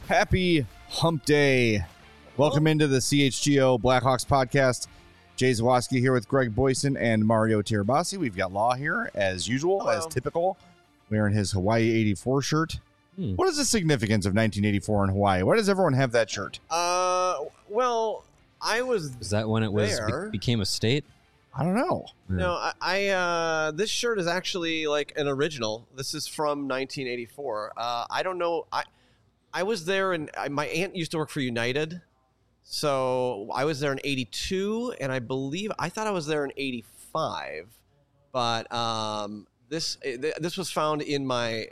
Happy Hump Day. Welcome into the CHGO Blackhawks podcast. Jay Zawoski here with Greg Boyson and Mario Tirabassi. We've got Law here, as usual, as typical, wearing his Hawaii 84 shirt. What is the significance of 1984 in Hawaii? Why does everyone have that shirt? Well, I was. Is that when it was became a state? I don't know. No, I this shirt is actually like an original. This is from 1984. I don't know. I was there, and my aunt used to work for United, so I was there in 82, and I thought I was there in 85, but this was found in my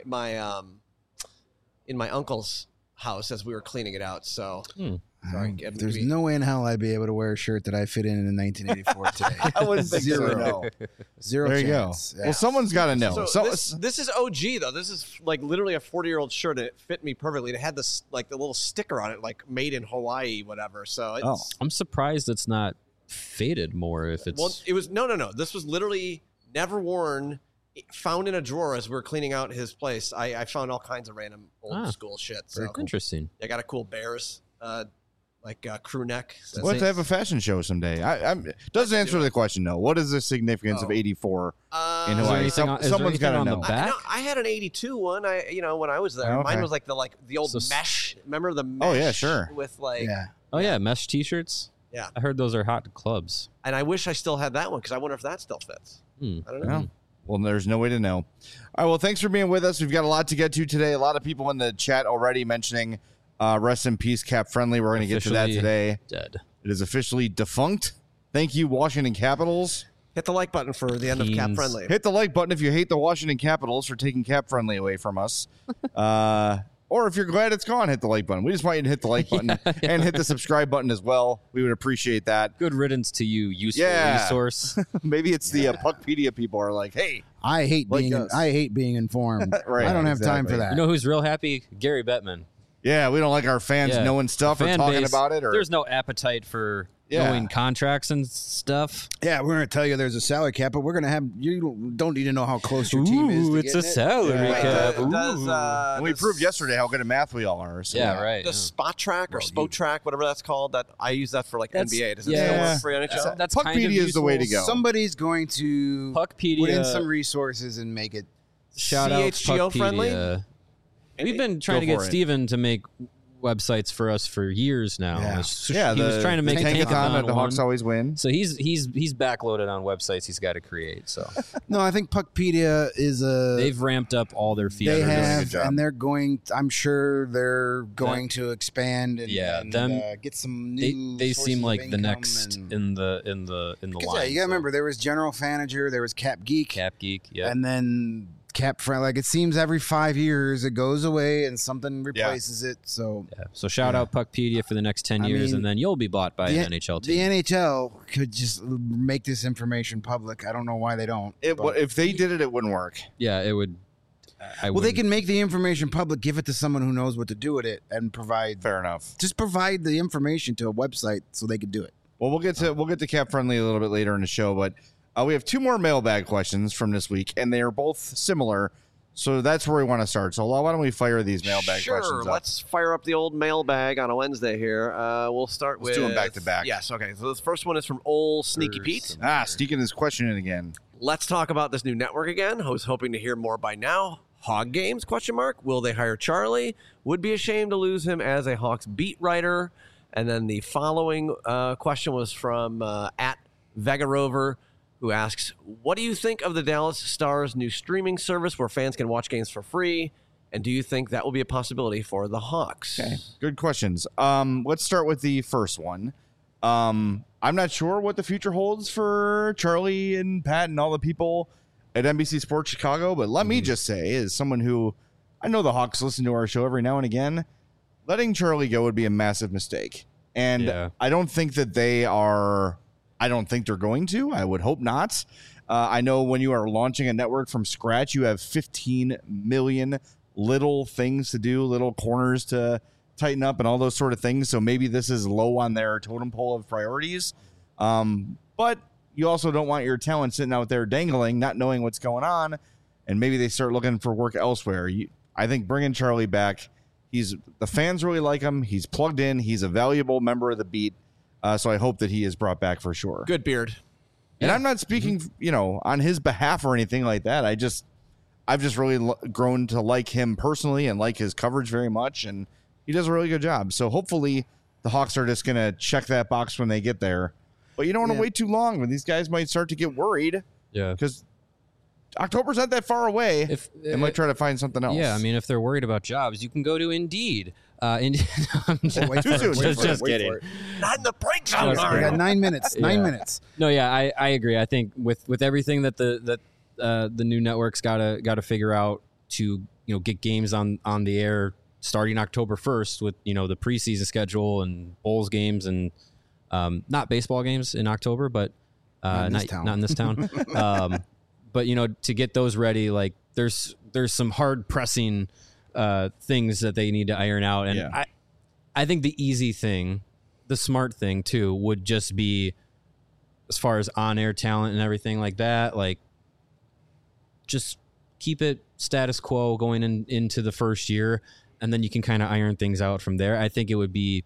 uncle's house as we were cleaning it out. So sorry, there's no way in hell I'd be able to wear a shirt that I fit in 1984 today. I wouldn't think Zero. Zero there you chance. go. Yeah. Well, someone's got to know. So this is OG though. This is like literally a 40-year-old shirt, and it fit me perfectly. It had this like the little sticker on it, like made in Hawaii, whatever. So it's, I'm surprised it's not faded more. If it's it was no. This was literally never worn. Found in a drawer as we were cleaning out his place. I found all kinds of random old school shit. So interesting. I got a cool Bears crew neck. We'll have to have a fashion show someday. Doesn't answer the question, though. What is the significance of 84 in Hawaii? Someone's got to know. I had an 82 one. When I was there, mine was like the old mesh. Remember the mesh? Oh yeah, sure. With like mesh T-shirts. Yeah, I heard those are hot to clubs. And I wish I still had that one because I wonder if that still fits. I don't know. Well, there's no way to know. All right, well, thanks for being with us. We've got a lot to get to today. A lot of people in the chat already mentioning rest in peace, Cap Friendly. We're going to get to that today. Dead. It is officially defunct. Thank you, Washington Capitals. Hit the like button for the end of Cap Friendly. Hit the like button if you hate the Washington Capitals for taking Cap Friendly away from us. Or if you're glad it's gone, hit the like button. We just want you to hit the like button and hit the subscribe button as well. We would appreciate that. Good riddance to you, useful resource. Maybe it's the Puckpedia people are like, hey, I hate being informed. Right, I don't have time for that. You know who's real happy? Gary Bettman. Yeah, we don't like our fans knowing stuff or talking about it. Or there's no appetite for knowing contracts and stuff. Yeah, we're going to tell you there's a salary cap, but we're going to have you don't need to know how close your team is. It's a salary cap. And we proved yesterday how good at math we all are. So right. The spot track or spot track, whatever that's called, that I use that for like NBA. Does it still work for NHL? That's Puckpedia kind of is the way to go. Somebody's going to Puckpedia, put in some resources and make it shout out CHGO Puckpedia. friendly. We've been trying to get Steven to make websites for us for years now. Yeah, he was trying to make Tankathon that the Hawks always win. So he's backloaded on websites he's got to create. So no, I think Puckpedia is they've ramped up all their features. They have, and they're going. I'm sure they're going to expand and, get some new. They seem like the next in the line. Yeah, you got to remember there was General Fanager, there was Cap Geek, and then Cap Friendly. Like it seems every 5 years it goes away and something replaces it. So shout out Puckpedia for the next 10 years, and then you'll be bought by an NHL team. The NHL could just make this information public. I don't know why they don't. If they did it, it wouldn't work. Yeah, it would. They can make the information public, give it to someone who knows what to do with it, and provide. Fair enough. Just provide the information to a website so they could do it. Well, we'll get to Cap Friendly a little bit later in the show, but we have two more mailbag questions from this week, and they are both similar. So that's where we want to start. So why don't we fire these mailbag questions up? Sure, let's fire up the old mailbag on a Wednesday here. We'll start with... Let's do them back to back. Yes, okay. So this first one is from old Sneaky Pete. Sneaking his question in again. Let's talk about this new network again. I was hoping to hear more by now. Hog Games, ? Will they hire Charlie? Would be ashamed to lose him as a Hawks beat writer. And then the following question was from at Vega Rover, who asks, what do you think of the Dallas Stars' new streaming service where fans can watch games for free? And do you think that will be a possibility for the Hawks? Okay, good questions. Let's start with the first one. I'm not sure what the future holds for Charlie and Pat and all the people at NBC Sports Chicago, but let me just say, as someone who, I know the Hawks listen to our show every now and again, letting Charlie go would be a massive mistake. And I don't think that they are... I don't think they're going to. I would hope not. I know when you are launching a network from scratch, you have 15 million little things to do, little corners to tighten up and all those sort of things. So maybe this is low on their totem pole of priorities. But you also don't want your talent sitting out there dangling, not knowing what's going on. And maybe they start looking for work elsewhere. I think bringing Charlie back, the fans really like him. He's plugged in. He's a valuable member of the beat. So I hope that he is brought back for sure. Good beard. And I'm not speaking, on his behalf or anything like that. I've just really grown to like him personally and like his coverage very much. And he does a really good job. So hopefully the Hawks are just going to check that box when they get there. But you don't want to wait too long when these guys might start to get worried. Yeah. Because October's not that far away. They might try to find something else. Yeah, I mean, if they're worried about jobs, you can go to Indeed. Too soon. Just kidding. Not in the break zone. We got 9 minutes. 9 minutes. No, yeah, I agree. I think with everything that the new network's got to figure out to get games on the air starting October 1st with the preseason schedule and Bulls games and not baseball games in October, but not in this town. But to get those ready, like there's some hard pressing things that they need to iron out, and I think the easy thing, the smart thing too, would just be as far as on-air talent and everything like that, like just keep it status quo going into the first year, and then you can kind of iron things out from there. I think it would be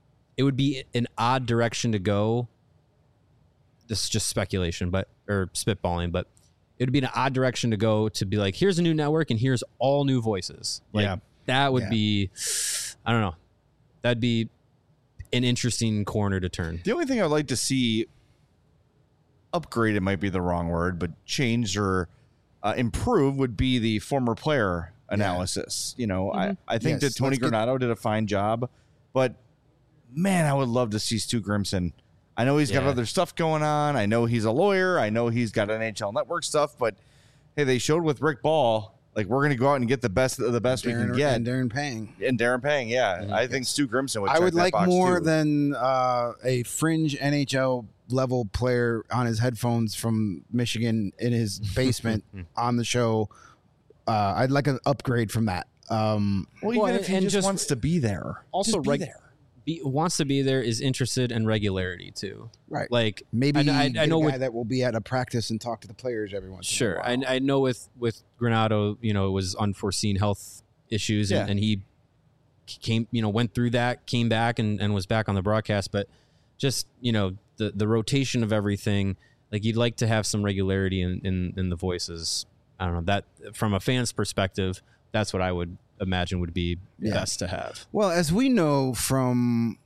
an odd direction to go. This is just speculation, or spitballing, but it would be an odd direction to go to be like, here's a new network and here's all new voices. Like that would be, I don't know. That'd be an interesting corner to turn. The only thing I'd like to see upgraded might be the wrong word, but change or improve would be the former player analysis. I think that Tony Granato did a fine job, but man, I would love to see Stu Grimson. I know he's got other stuff going on. I know he's a lawyer. I know he's got NHL Network stuff, but hey, they showed with Rick Ball, like we're going to go out and get the best of the best we can get. And Darren Pang. Yeah. Mm-hmm. I think Stu Grimson would check I would that like box more too. than a fringe NHL level player on his headphones from Michigan in his basement on the show. I'd like an upgrade from that. Even if he just wants to be there. Also, there. Wants to be there, is interested in regularity too. Right. Like maybe I know a guy that will be at a practice and talk to the players every once in a while. I know with Granato, it was unforeseen health issues and he came, went through that, came back and was back on the broadcast. But just, the rotation of everything, like you'd like to have some regularity in the voices. I don't know, that from a fan's perspective, that's what I would imagine would be best to have. Well, as we know from,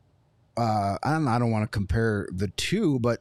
I don't want to compare the two, but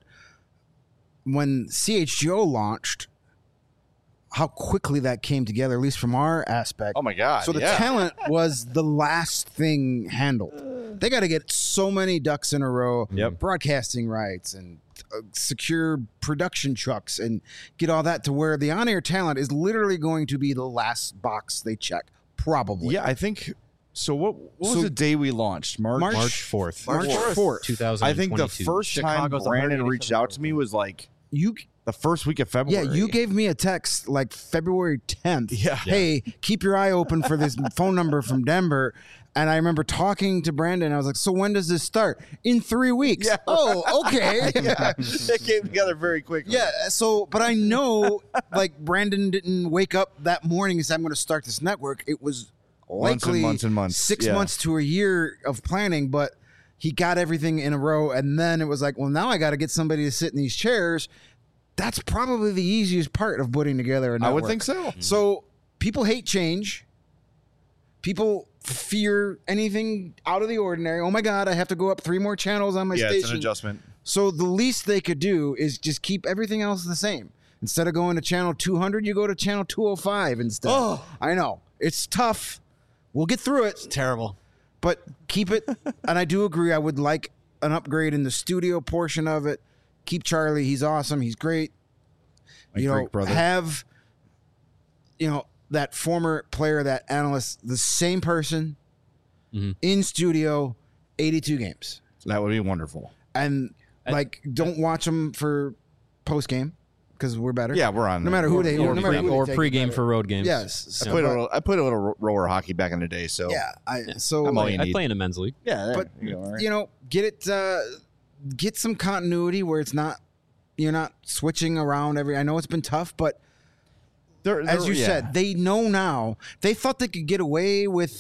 when CHGO launched, how quickly that came together, at least from our aspect. Oh my God. So the talent was the last thing handled. They got to get so many ducks in a row, broadcasting rights and secure production trucks and get all that to where the on-air talent is literally going to be the last box they check. Probably. Yeah, I think so. What was the day we launched? March 4th. March 4th. 2022. I think the first time Brandon reached out to me was like the first week of February. Yeah, you gave me a text like February 10th. Yeah. Hey, keep your eye open for this phone number from Denver. And I remember talking to Brandon. I was like, so when does this start? In 3 weeks. Yeah. Oh, okay. Yeah. It came together very quickly. Yeah. So, but I know like Brandon didn't wake up that morning and say, I'm going to start this network. It was likely months and months. 6 months to a year of planning, but he got everything in a row. And then it was like, well, now I got to get somebody to sit in these chairs. That's probably the easiest part of putting together a network. I would think so. So people hate change. People fear anything out of the ordinary. Oh my God, I have to go up 3 more channels on my station. Yeah, it's an adjustment. So the least they could do is just keep everything else the same. Instead of going to channel 200, you go to channel 205 instead. Oh, I know. It's tough. We'll get through it. It's terrible. But keep it. And I do agree. I would like an upgrade in the studio portion of it. Keep Charlie. He's awesome. He's great. Brother. Have, that former player, that analyst, the same person in studio, 82 games. That would be wonderful. And don't watch them for post game because we're better. Yeah, we're on. No matter who they or pregame for road games. Yes, I played a little roller hockey back in the day. So yeah, I play in a men's league. Yeah, but get it, get some continuity where it's not you're not switching around every. I know it's been tough, but. As you said, they know now. They thought they could get away with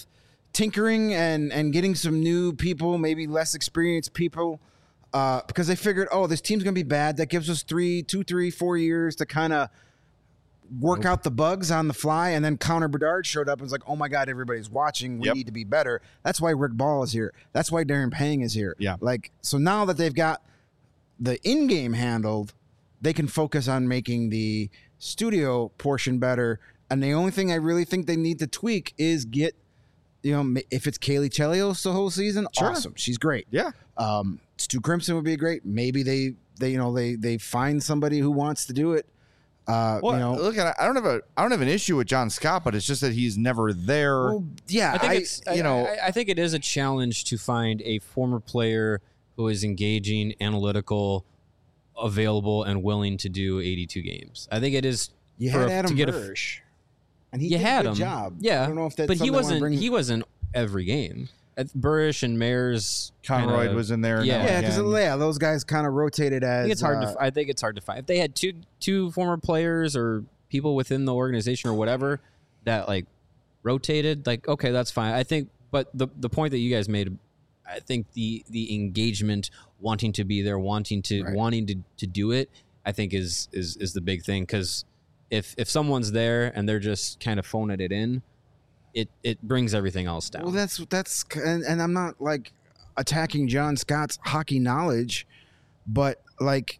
tinkering and getting some new people, maybe less experienced people, because they figured, oh, this team's gonna be bad. That gives us 2, 3, 4 years to kind of work out the bugs on the fly. And then Connor Bedard showed up and was like, oh my God, everybody's watching. We need to be better. That's why Rick Ball is here. That's why Darren Pang is here. Yeah. Like, so now that they've got the in-game handled, they can focus on making the studio portion better. And the only thing I really think they need to tweak is get, if it's Kaylee Chelios the whole season, awesome. She's great. Yeah. Stu Crimson would be great. Maybe they find somebody who wants to do it. Look, I don't have an issue with John Scott, but it's just that he's never there. Well, yeah, I think it is a challenge to find a former player who is engaging, analytical, available, and willing to do 82 games. I think it is. You had Adam Bursch, and he did a good job. Yeah, I don't know if that's but he wasn't. He wasn't every game. Burrish and Mayers, Conroy was in there. Yeah, because those guys kind of rotated as. I think it's hard to find. If they had two former players or people within the organization or whatever that like rotated, like okay, that's fine. I think, but the point that you guys made, I think the engagement, wanting to be there, wanting to do it, I think is the big thing. Because if someone's there and they're just kind of phoning it in, it brings everything else down. Well, that's and I'm not like attacking John Scott's hockey knowledge, but like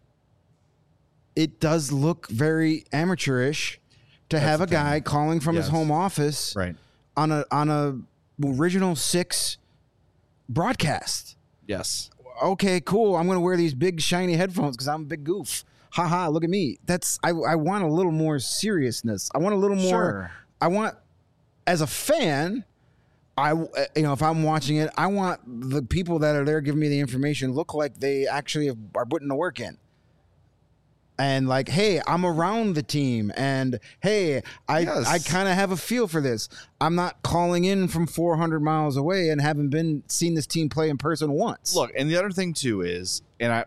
it does look very amateurish to have a guy calling from his home office on a original 6 broadcast. Yes. Okay, cool. I'm going to wear these big shiny headphones because I'm a big goof. Haha, look at me. I want a little more seriousness. I want a little more. Sure. I want, as a fan, if I'm watching it, I want the people that are there giving me the information look like they actually are putting the work in. And like, hey, I'm around the team, and hey, I kind of have a feel for this. I'm not calling in from 400 miles away and haven't seen this team play in person once. Look, and the other thing too is,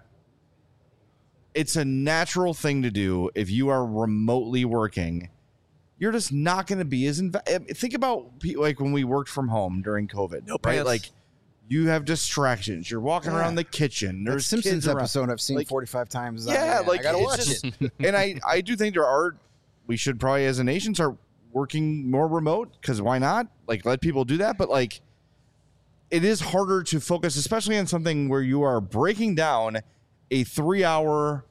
it's a natural thing to do if you are remotely working. You're just not going to be as think about like when we worked from home during COVID, right? Like you have distractions. You're walking around the kitchen. There's that Simpsons kids episode I've seen 45 times. Yeah, like I gotta watch it. And I do think we should probably as a nation start working more remote, because why not? Like let people do that. But like it is harder to focus, especially on something where you are breaking down a 3-hour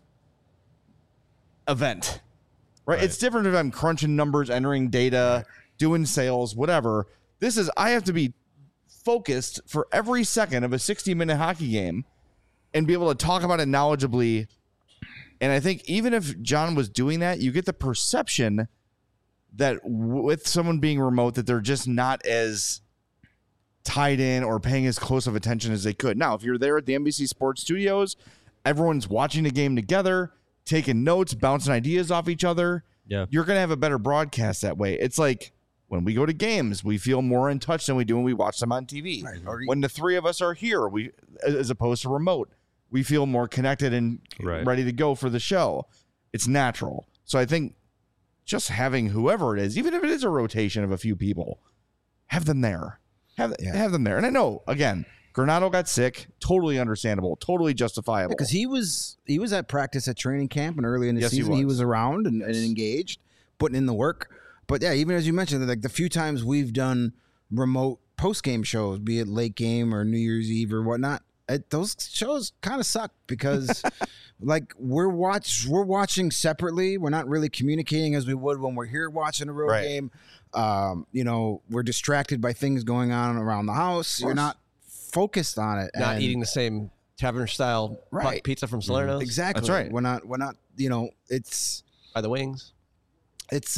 event. Right? It's different if I'm crunching numbers, entering data, doing sales, whatever. I have to be focused for every second of a 60-minute hockey game and be able to talk about it knowledgeably. And I think even if John was doing that, you get the perception that with someone being remote, that they're just not as tied in or paying as close of attention as they could. Now, if you're there at the NBC Sports Studios, everyone's watching the game together, taking notes, bouncing ideas off each other. Yeah. You're going to have a better broadcast that way. It's like when we go to games, we feel more in touch than we do when we watch them on TV. Right. When the three of us are here, as opposed to remote, we feel more connected and ready to go for the show. It's natural. So I think just having whoever it is, even if it is a rotation of a few people, have them there. Have them there. And I know, again, Granato got sick. Totally understandable. Totally justifiable. Because he was at practice at training camp, and early in the season he was around and engaged, putting in the work. But yeah, even as you mentioned, like the few times we've done remote post-game shows, be it late game or New Year's Eve or whatnot, those shows kind of suck because like we're watching separately. We're not really communicating as we would when we're here watching a road game. We're distracted by things going on around the house. You're not focused on it. Not eating the same tavern style pizza from Salerno's. Exactly. That's right. We're not, it's by the wings. It's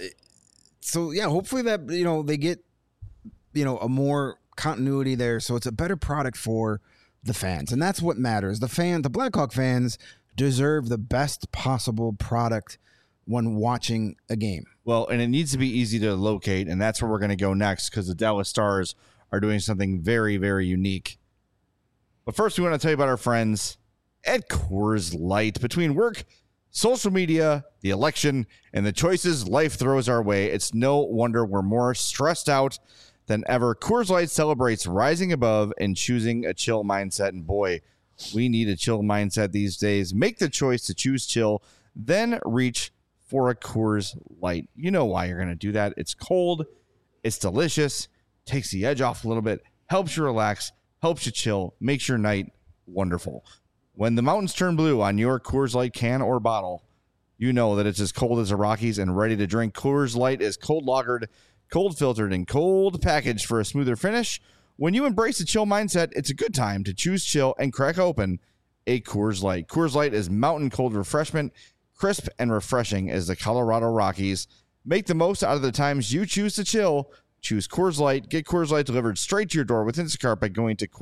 so yeah, hopefully that they get a more continuity there, so it's a better product for the fans. And that's what matters. The Blackhawk fans deserve the best possible product when watching a game. Well, and it needs to be easy to locate, and that's where we're going to go next, because the Dallas Stars are doing something very, very unique. But first, we want to tell you about our friends at Coors Light. Between work, social media, the election, and the choices life throws our way, it's no wonder we're more stressed out than ever. Coors Light celebrates rising above and choosing a chill mindset. And boy, we need a chill mindset these days. Make the choice to choose chill, then reach for a Coors Light. You know why you're going to do that. It's cold. It's delicious. Takes the edge off a little bit. Helps you relax. Helps you chill. Makes your night wonderful. When the mountains turn blue on your Coors Light can or bottle, you know that it's as cold as the Rockies and ready to drink. Coors Light is cold lagered, cold filtered, and cold packaged for a smoother finish. When you embrace the chill mindset, it's a good time to choose chill and crack open a Coors Light. Coors Light is mountain cold refreshment, crisp and refreshing as the Colorado Rockies. Make the most out of the times you choose to chill. Choose Coors Light. Get Coors Light delivered straight to your door with Instacart by going to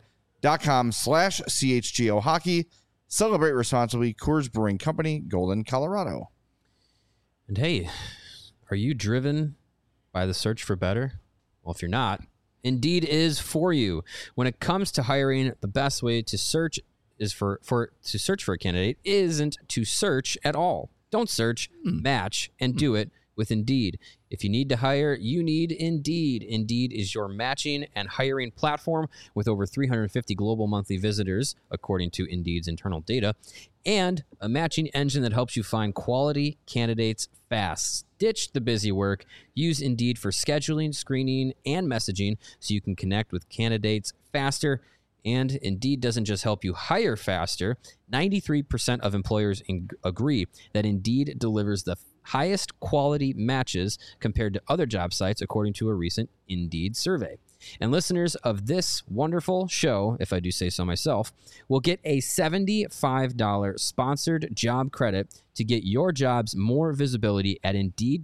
CoorsLight.com/CHGO Hockey. Celebrate responsibly. Coors Brewing Company, Golden, Colorado. And hey, are you driven by the search for better? Well, if you're not, Indeed is for you. When it comes to hiring, the best way to search is to search for a candidate isn't to search at all. Don't search, match, and do it with Indeed. If you need to hire, you need Indeed. Indeed is your matching and hiring platform with over 350 global monthly visitors, according to Indeed's internal data, and a matching engine that helps you find quality candidates fast. Ditch the busy work. Use Indeed for scheduling, screening, and messaging so you can connect with candidates faster. And Indeed doesn't just help you hire faster. 93% of employers agree that Indeed delivers the highest quality matches compared to other job sites, according to a recent Indeed survey. And listeners of this wonderful show, if I do say so myself, will get a $75 sponsored job credit to get your jobs more visibility at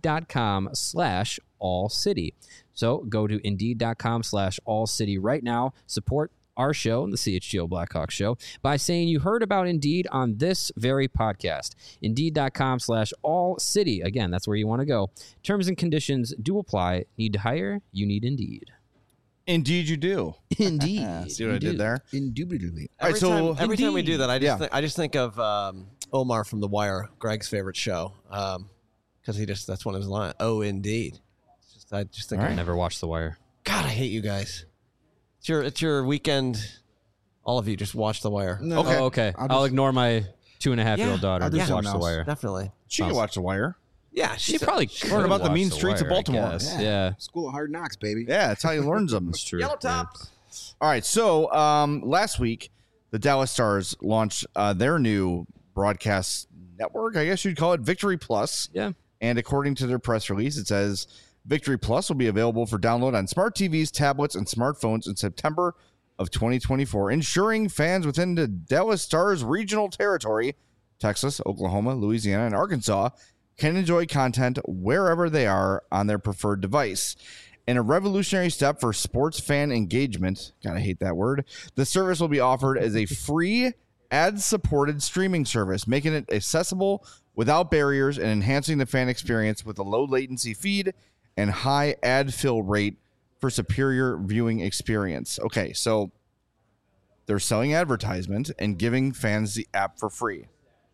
Indeed.com/AllCity. So go to Indeed.com/AllCity right now. Support our show, the CHGO Blackhawks show, by saying you heard about Indeed on this very podcast. Indeed.com/AllCity. Again, that's where you want to go. Terms and conditions do apply. Need to hire? You need Indeed. Indeed, you do. Indeed. See what I did there? Indubitably. Every time we do that, I Yeah. just think of Omar from The Wire, Greg's favorite show, because that's one of his lines. Oh, indeed. I just think, I never watched The Wire. God, I hate you guys. It's your weekend. All of you just watch The Wire. No, Okay. Oh, okay. I'll ignore my 2.5-year-old daughter I'll do to watch something The else. Wire. Definitely. She can watch The Wire. Yeah, She probably could learn about the watch mean The streets of Wire, I Baltimore. guess. Yeah. School of Hard Knocks, baby. Yeah, that's how he learns them. That's true. Yellow Yeah. Tops. All right, so last week, the Dallas Stars launched their new broadcast network, I guess you'd call it, Victory Plus. Yeah. And according to their press release, it says Victory Plus will be available for download on smart TVs, tablets, and smartphones in September of 2024, ensuring fans within the Dallas Stars regional territory, Texas, Oklahoma, Louisiana, and Arkansas, can enjoy content wherever they are on their preferred device. In a revolutionary step for sports fan engagement, gotta hate that word, the service will be offered as a free ad-supported streaming service, making it accessible without barriers and enhancing the fan experience with a low latency feed and high ad fill rate for superior viewing experience. Okay, so they're selling advertisement and giving fans the app for free.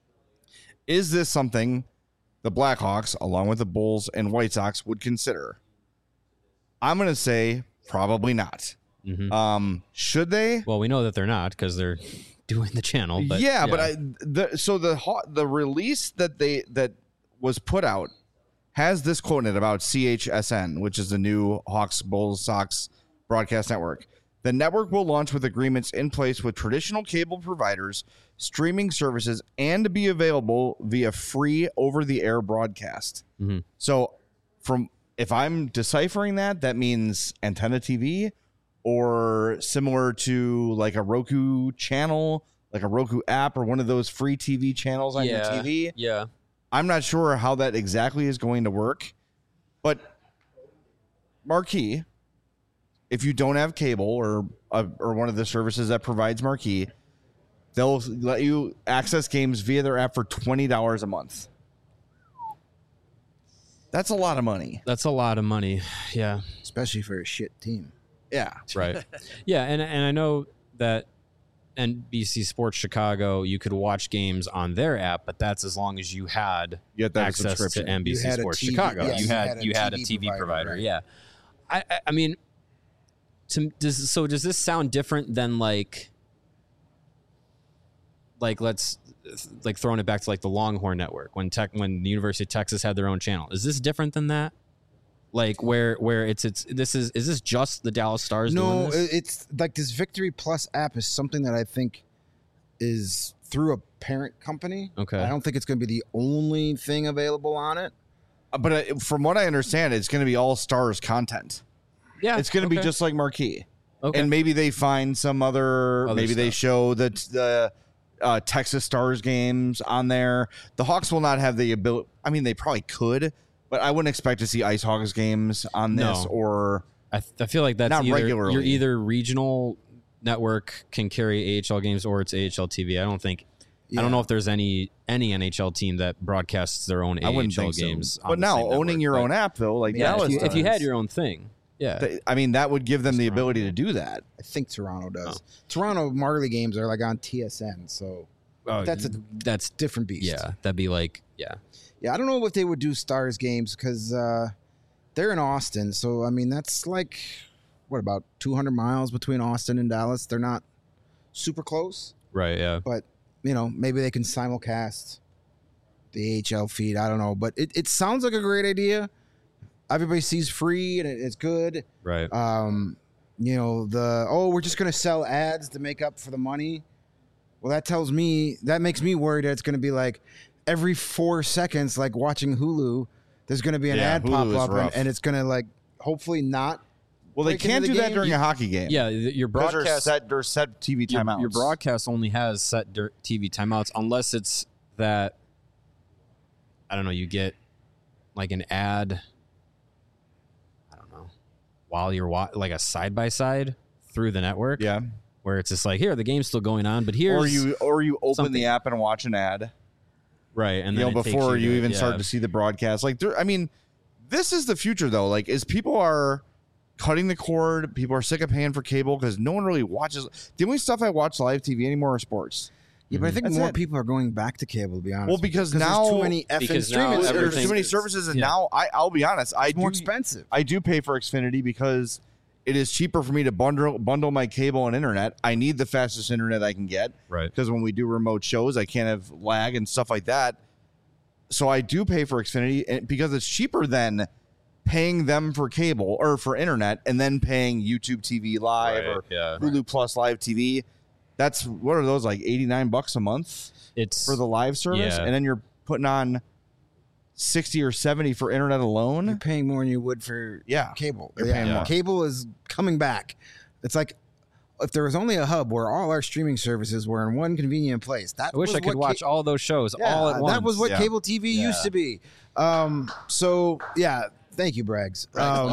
Is this something the Blackhawks, along with the Bulls and White Sox, would consider? I'm going to say probably not. Mm-hmm. Should they? Well, we know that they're not because they're doing the channel. But the release that was put out has this quote in it about CHSN, which is the new Hawks, Bulls, Sox broadcast network. The network will launch with agreements in place with traditional cable providers, streaming services, and be available via free over-the-air broadcast. Mm-hmm. So, if I'm deciphering that means antenna TV, or similar to like a Roku channel, like a Roku app, or one of those free TV channels on your TV. Yeah. I'm not sure how that exactly is going to work, but Marquee, if you don't have cable or one of the services that provides Marquee, they'll let you access games via their app for $20 a month. That's a lot of money. That's a lot of money. Yeah. Especially for a shit team. Yeah. Right. Yeah, and I know that NBC Sports Chicago, you could watch games on their app, but that's as long as you had Get that access to subscription. NBC You had a Sports TV Chicago. yeah, you had a TV provider. right. Yeah. I mean, Does this sound different than like let's throwing it back to like the Longhorn Network when the University of Texas had their own channel? Is this different than that? Like where is this just the Dallas Stars? No, doing this? it's like this Victory Plus app is something that I think is through a parent company. Okay. I don't think it's going to be the only thing available on it. But from what I understand, it's going to be all Stars content. Yeah, It's going to be just like Marquee. okay. And maybe they find some other maybe they stuff. show the Texas Stars games on there. The Hawks will not have the ability. I mean, they probably could, but I wouldn't expect to see Ice Hawks games on this No. or I feel like that's Not either, regularly. You're either regional network can carry AHL games or it's AHL TV. I don't think. I don't know if there's any NHL team that broadcasts their own I wouldn't AHL think so. games. on But the now same owning network, your but- own app though, like yeah, Dallas if you does, had your own thing, yeah. I mean, that would give them the ability to do that. I think Toronto does. Oh. Toronto Marley games are like on TSN, so that's a that's different beast. yeah. That'd be like Yeah, I don't know if they would do Stars games because they're in Austin. So, I mean, that's like, what, about 200 miles between Austin and Dallas? They're not super close, right. Yeah. but, you know, maybe they can simulcast the AHL feed. I don't know. But it sounds like a great idea. Everybody sees free and it's good. Right. You know, we're just going to sell ads to make up for the money. Well, that makes me worried that it's going to be like every 4 seconds, like watching Hulu, there's going to be an ad pop Hulu is up rough. and it's going to like hopefully not. Well, they break can't into do the that game? during a hockey game. yeah. Your Because broadcast. there's set TV Your, timeouts. your broadcast only has set TV timeouts unless it's that. I don't know. You get like an ad. I don't know. While you're like a side by side through the network. Yeah. Where it's just like, here the game's still going on, but here's Or you open something. the app and watch an ad. right, and You then know, it takes before you to- even yeah. start to see the broadcast. Like, I mean, this is the future though. Like, as people are cutting the cord, people are sick of paying for cable because no one really watches. The only stuff I watch live TV anymore is sports. Yeah, but I think That's more it. people are going back to cable, to be honest. Well, with you, because there's now- too many effing because now streaming There's everything- too many services. services, and Yeah. now I'll be honest, It's more expensive. I do pay for Xfinity because it is cheaper for me to bundle my cable and internet. I need the fastest internet I can get Right. because when we do remote shows, I can't have lag and stuff like that. So I do pay for Xfinity and because it's cheaper than paying them for cable or for internet and then paying YouTube TV Live Right, or yeah. Hulu Plus Live TV. That's what are those like $89 a month It's for the live service, yeah. and then you're putting on 60 or 70 for internet You're alone. paying more than you would for Yeah. cable. You're paying more. Cable is coming back. It's like if there was only a hub where all our streaming services were in one convenient place. That I wish was I could what watch all those shows all at once. That was what Yeah. cable TV used to be. So yeah, thank you, Braggs.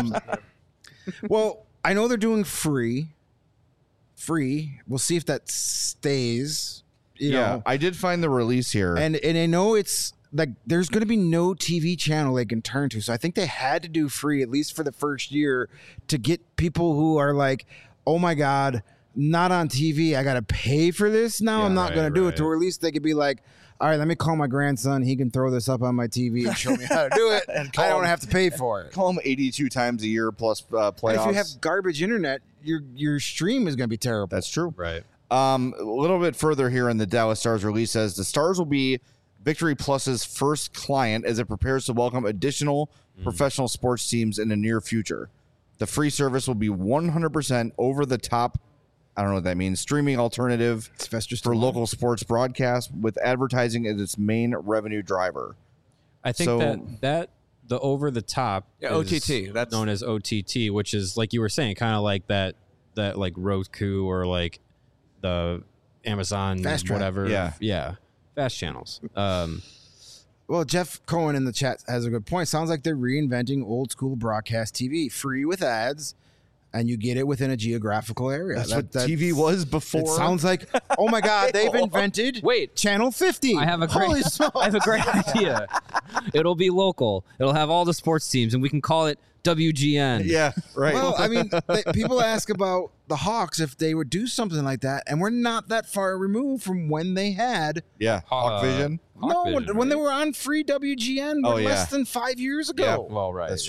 Well, I know they're doing free. We'll see if that stays. You know, I did find the release here. and I know it's like there's going to be no TV channel they can turn to. So I think they had to do free at least for the first year to get people who are like, oh my God, not on TV. I got to pay for this now. Yeah, I'm not right, going to do right. it. To at least they could be like, all right, let me call my grandson. He can throw this up on my TV and show me how to do it. And I don't have to pay for it. call them 82 times a year plus playoffs. And if you have garbage internet, your stream is going to be terrible. That's true. right. A little bit further here in the Dallas Stars release says the Stars will be Victory Plus's first client as it prepares to welcome additional professional sports teams in the near future. The free service will be 100% over the top. I don't know what that means. Streaming alternative Sylvester for Stallone. local sports broadcast with advertising as its main revenue driver. I think So- that the over the top Yeah, is OTT, that's- known as OTT, which is like you were saying, kind of like that like Roku or like the Amazon Fast Track. whatever. Yeah. Fast channels. Well, Jeff Cohen in the chat has a good point. Sounds like they're reinventing old school broadcast TV, free with ads, and you get it within a geographical area. That's what TV was before. It sounds like, oh my God, they've invented Wait. Channel 50. I have a Holy great, smokes. I have a great idea. It'll be local. It'll have all the sports teams, and we can call it WGN. Yeah, right. Well, I mean, people ask about the Hawks if they would do something like that, and we're not that far removed from when they had. yeah, Hawk Vision. Hawk when Vision, they right? were on free WGN Oh, less yeah. than 5 years ago. Yeah. Well, right. That's true. yeah.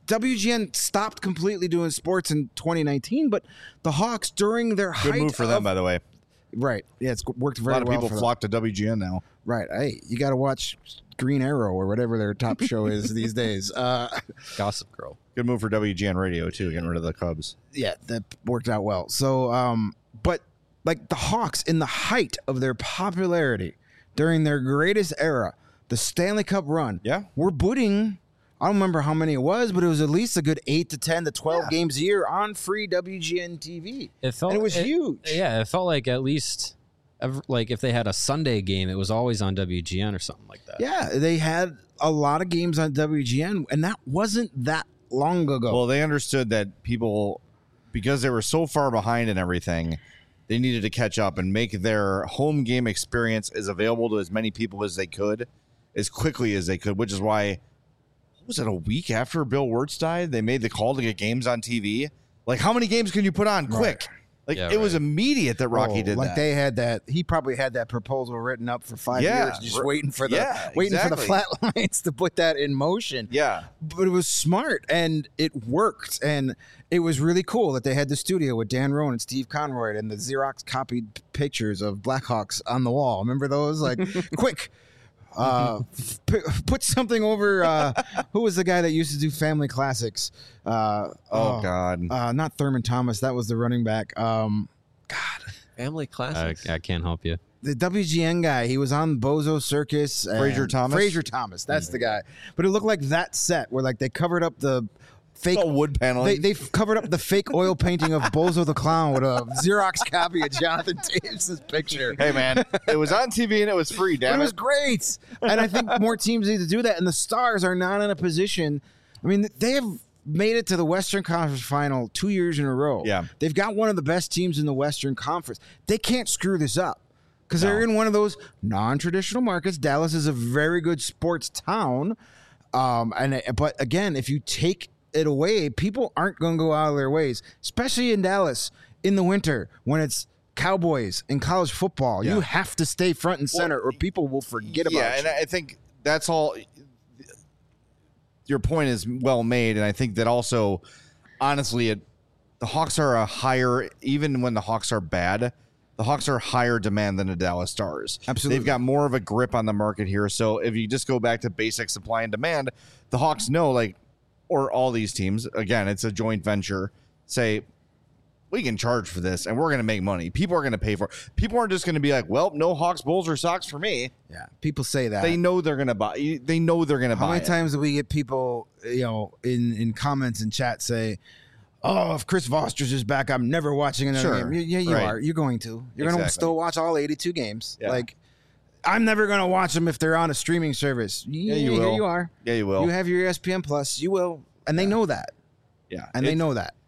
WGN stopped completely doing sports in 2019, but the Hawks during their Good height move for them, by the way. right, yeah, it's worked A very lot of well people for them. flock to WGN now. Right, hey, you got to watch Green Arrow or whatever their top show is these days. Gossip Girl. Good move for WGN Radio too, getting rid of the Cubs. Yeah, that worked out well. So, but like the Hawks in the height of their popularity during their greatest era, the Stanley Cup run, Yeah. we're booting. I don't remember how many it was, but it was at least a good 8 to 10 to 12 games a year on free WGN TV. It felt And it was huge. Yeah, it felt like at least like if they had a Sunday game, it was always on WGN or something like that. Yeah, they had a lot of games on WGN, and that wasn't that long ago. Well, they understood that people, because they were so far behind and everything, they needed to catch up and make their home game experience as available to as many people as they could, as quickly as they could, which is why, what was it, a week after Bill Wirtz died, they made the call to get games on TV? Like, how many games can you put on quick? Like, Yeah, it was immediate that Rocky did like that. they had that. He probably had that proposal written up for 5 Yeah. years, just waiting for the Yeah, waiting for the exactly. flat lines to put that in motion. Yeah. But it was smart and it worked, and it was really cool that they had the studio with Dan Rowan and Steve Conroy and the Xerox copied pictures of Blackhawks on the wall. Remember those? Like, quick. Put something over. Who was the guy that used to do Family Classics? God. Not Thurman Thomas. That was the running back. Family classics. I can't help you. The WGN guy. He was on Bozo Circus. and- Fraser Thomas? Fraser Thomas. That's the guy. But it looked like that set where like they covered up the fake Oh, wood paneling. They covered up the fake oil painting of Bozo the Clown with a Xerox copy of Jonathan Davis' picture. Hey, man, it was on TV and it was free, But damn it was it. great. And I think more teams need to do that. And the Stars are not in a position. I mean, they have made it to the Western Conference Final 2 years in a row. Yeah. They've got one of the best teams in the Western Conference. They can't screw this up because they're in one of those non-traditional markets. Dallas is a very good sports town. But again, if you take it away, people aren't going to go out of their ways, especially in Dallas in the winter when it's Cowboys and college football. Yeah. You have to stay front and center or people will forget about Yeah, you. and I think that's all. Your point is well made, and I think that also, honestly, the Hawks are a higher, even when the Hawks are bad, the Hawks are higher demand than the Dallas Stars. Absolutely. They've got more of a grip on the market here. So if you just go back to basic supply and demand, the Hawks know, like, or all these teams, again, it's a joint venture, say, we can charge for this and we're going to make money. People are going to pay for it. People aren't just going to be like, well, no Hawks, Bulls, or Sox for me. Yeah, people say that. They know they're going to buy. They know they're going to buy. How many it. times do we get people, in comments and chat say, "Oh, if Chris Voster's is back, I'm never watching another Sure. game." Yeah, you Right. are. You're going to. You're going to Exactly. still watch all 82 games. Yeah. Like, I'm never going to watch them if they're on a streaming service. Yeah, you will. Here you are. Yeah, you will. You have your ESPN Plus. You will, and they know that. Yeah, And they know that.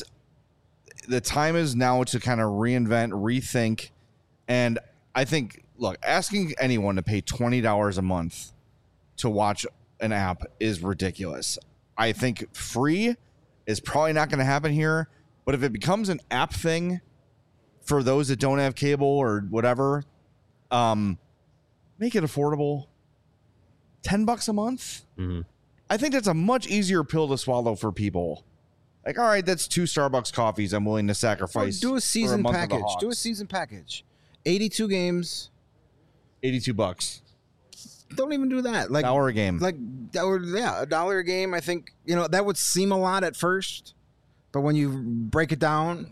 The time is now to kind of reinvent, rethink, and I think, look, asking anyone to pay $20 a month to watch an app is ridiculous. I think free is probably not going to happen here, but if it becomes an app thing for those that don't have cable or whatever, make it affordable. $10 a month. Mm-hmm. I think that's a much easier pill to swallow for people. Like, all right, that's 2 Starbucks coffees I'm willing to sacrifice. Do a for season month of the package. Do a Hawks. season package. 82 games. $82. Don't even do that. Like $1 a game. Like $1 a game. I think that would seem a lot at first, but when you break it down,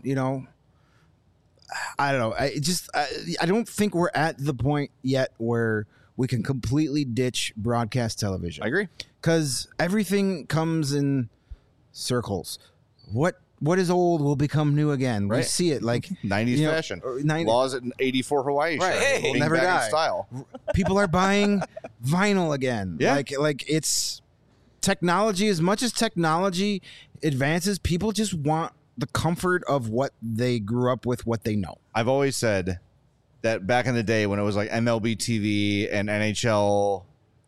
I don't know. I don't think we're at the point yet where we can completely ditch broadcast television. I agree. Because everything comes in circles. What is old will become new again. We Right. see it like 90s fashion. 90 Laws at 84 Hawaii. Right. shirt. Hey, Bing never bag in die. Style. people are buying vinyl again. Yeah. Like it's technology. As much as technology advances, people just want the comfort of what they grew up with, what they know. I've always said that back in the day when it was like MLB TV and NHL,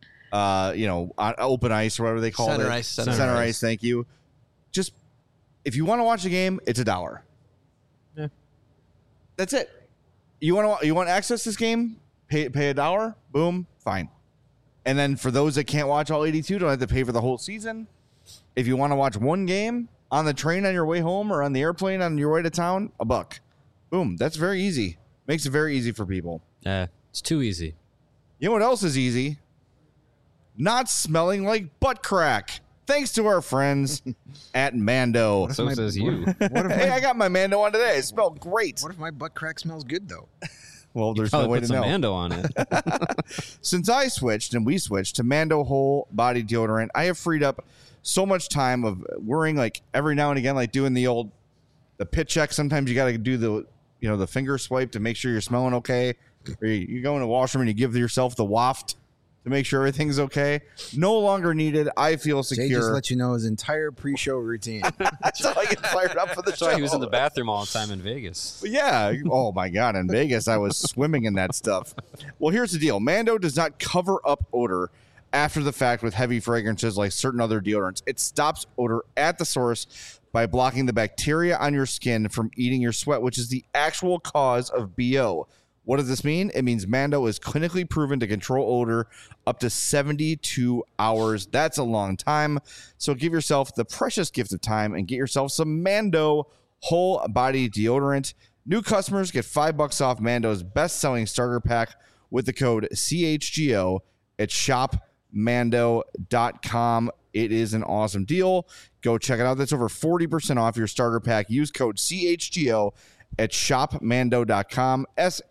on open ice or whatever they called Center it. ice, Center center ice. ice. Thank you. Just if you want to watch a game, it's $1. Yeah. That's it. You want to access this game? Pay $1. Boom. Fine. And then for those that can't watch all 82, don't have to pay for the whole season. If you want to watch one game on the train on your way home or on the airplane on your way to town, $1. Boom. That's very easy. Makes it very easy for people. It's too easy. You know what else is easy? Not smelling like butt crack. Thanks to our friends at Mando. So says you. Hey, I got my Mando on today. It smelled great. What if my butt crack smells good though? Well, there's no Probably way put to some know. Mando on it. Since I switched and we switched to Mando whole body deodorant, I have freed up so much time of worrying, like every now and again, like doing the pit check. Sometimes you got to do the finger swipe to make sure you're smelling okay. Or you go in the washroom and you give yourself the waft to make sure everything's okay. No longer needed. I feel secure. Jay just let you know his entire pre-show routine. That's how I get fired up for the That's show. why he was in the bathroom all the time in Vegas. But yeah. Oh my God. In Vegas, I was swimming in that stuff. Well, here's the deal. Mando does not cover up odor after the fact with heavy fragrances like certain other deodorants. It stops odor at the source by blocking the bacteria on your skin from eating your sweat, which is the actual cause of BO. What does this mean? It means Mando is clinically proven to control odor up to 72 hours. That's a long time. So give yourself the precious gift of time and get yourself some Mando whole body deodorant. New customers get $5 off Mando's best-selling starter pack with the code CHGO at shopmando.com. It is an awesome deal. Go check it out. That's over 40% off your starter pack. Use code CHGO at shopmando.com,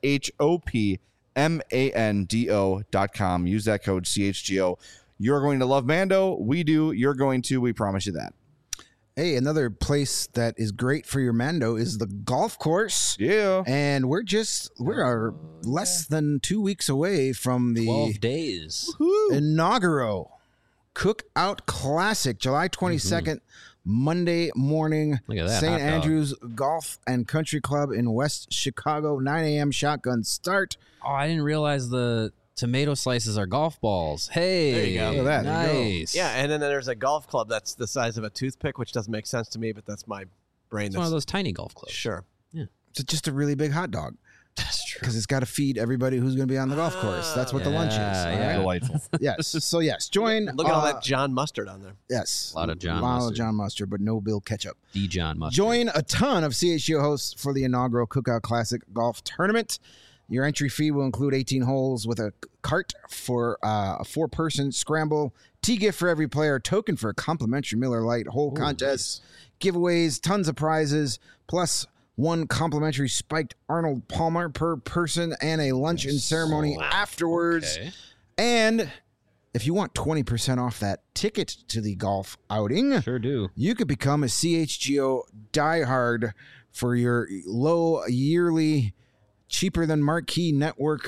shopmando.com. Use that code CHGO. You're going to love Mando. We do. You're going to. We promise you that. Hey, another place that is great for your Mando is the golf course. Yeah. And we are less than 2 weeks away from the 12 days. inaugural Cookout Classic, July 22nd, Monday morning. Look at that, St. hot dog. Andrews Golf and Country Club in West Chicago, 9 a.m. shotgun start. Oh, I didn't realize the tomato slices are golf balls. Hey, There you go. Look at that. There you go. nice. Yeah, and then there's a golf club that's the size of a toothpick, which doesn't make sense to me, but that's my brain. It's one of those tiny golf clubs. Sure. It's just a really big hot dog That's true. because it's got to feed everybody who's going to be on the golf course. That's what the lunch is. Yeah, all yeah. right? Delightful. Yes. So, yes, join. Look at all that John Mustard on there. Yes. A lot of John lot Mustard. of John Mustard, but no Bill Ketchup. Dijon mustard. Join a ton of CHGO hosts for the inaugural Cookout Classic Golf Tournament. Your entry fee will include 18 holes with a cart for a 4-person scramble, tee gift for every player, token for a complimentary Miller Lite, hole contest, giveaways, tons of prizes, plus 1 complimentary spiked Arnold Palmer per person, and a lunch and ceremony afterwards. Okay. And if you want 20% off that ticket to the golf outing, Sure do. you could become a CHGO diehard for your low yearly, cheaper than Marquee Network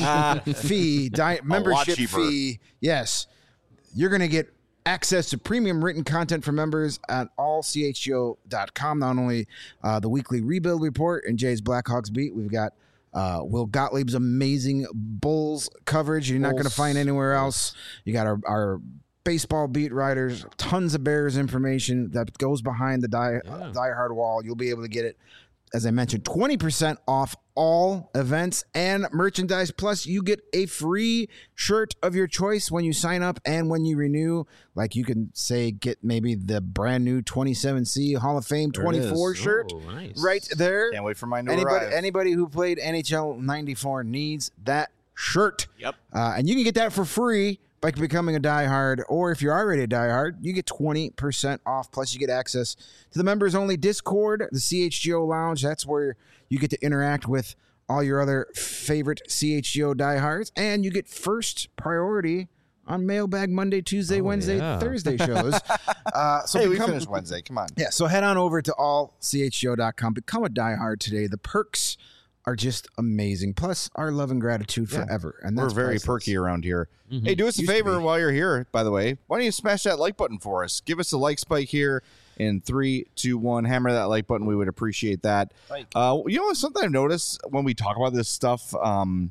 fee, membership cheaper. fee. Yes, you're going to get access to premium written content for members at allchgo.com. Not only the weekly rebuild report and Jay's Blackhawks beat, we've got Will Gottlieb's amazing Bulls coverage you're not going to find anywhere else. You got our baseball beat writers, tons of Bears information that goes behind the diehard wall. You'll be able to get it, as I mentioned, 20% off all events and merchandise. Plus, you get a free shirt of your choice when you sign up and when you renew. Like you can say, get maybe the brand new 27C Hall of Fame 24 shirt Oh, nice. right there. Can't wait for mine to arrive. Anybody who played NHL 94 needs that shirt. Yep. And you can get that for free by becoming a diehard, or if you're already a diehard, you get 20% off. Plus, you get access to the members-only Discord, the CHGO Lounge. That's where you get to interact with all your other favorite CHGO diehards, and you get first priority on Mailbag Monday, Tuesday, Wednesday, yeah. Thursday shows. So Hey, we become- finished Wednesday. Come on. yeah, so head on over to allchgo.com. Become a diehard today. The perks are just amazing. Plus, our love and gratitude forever. And We're that's very priceless. perky around here. Hey, do us a Used to favor be. while you're here, by the way. Why don't you smash that like button for us? Give us a like spike here in 3, 2, 1. Hammer that like button. We would appreciate that. You know, something I've noticed when we talk about this stuff, a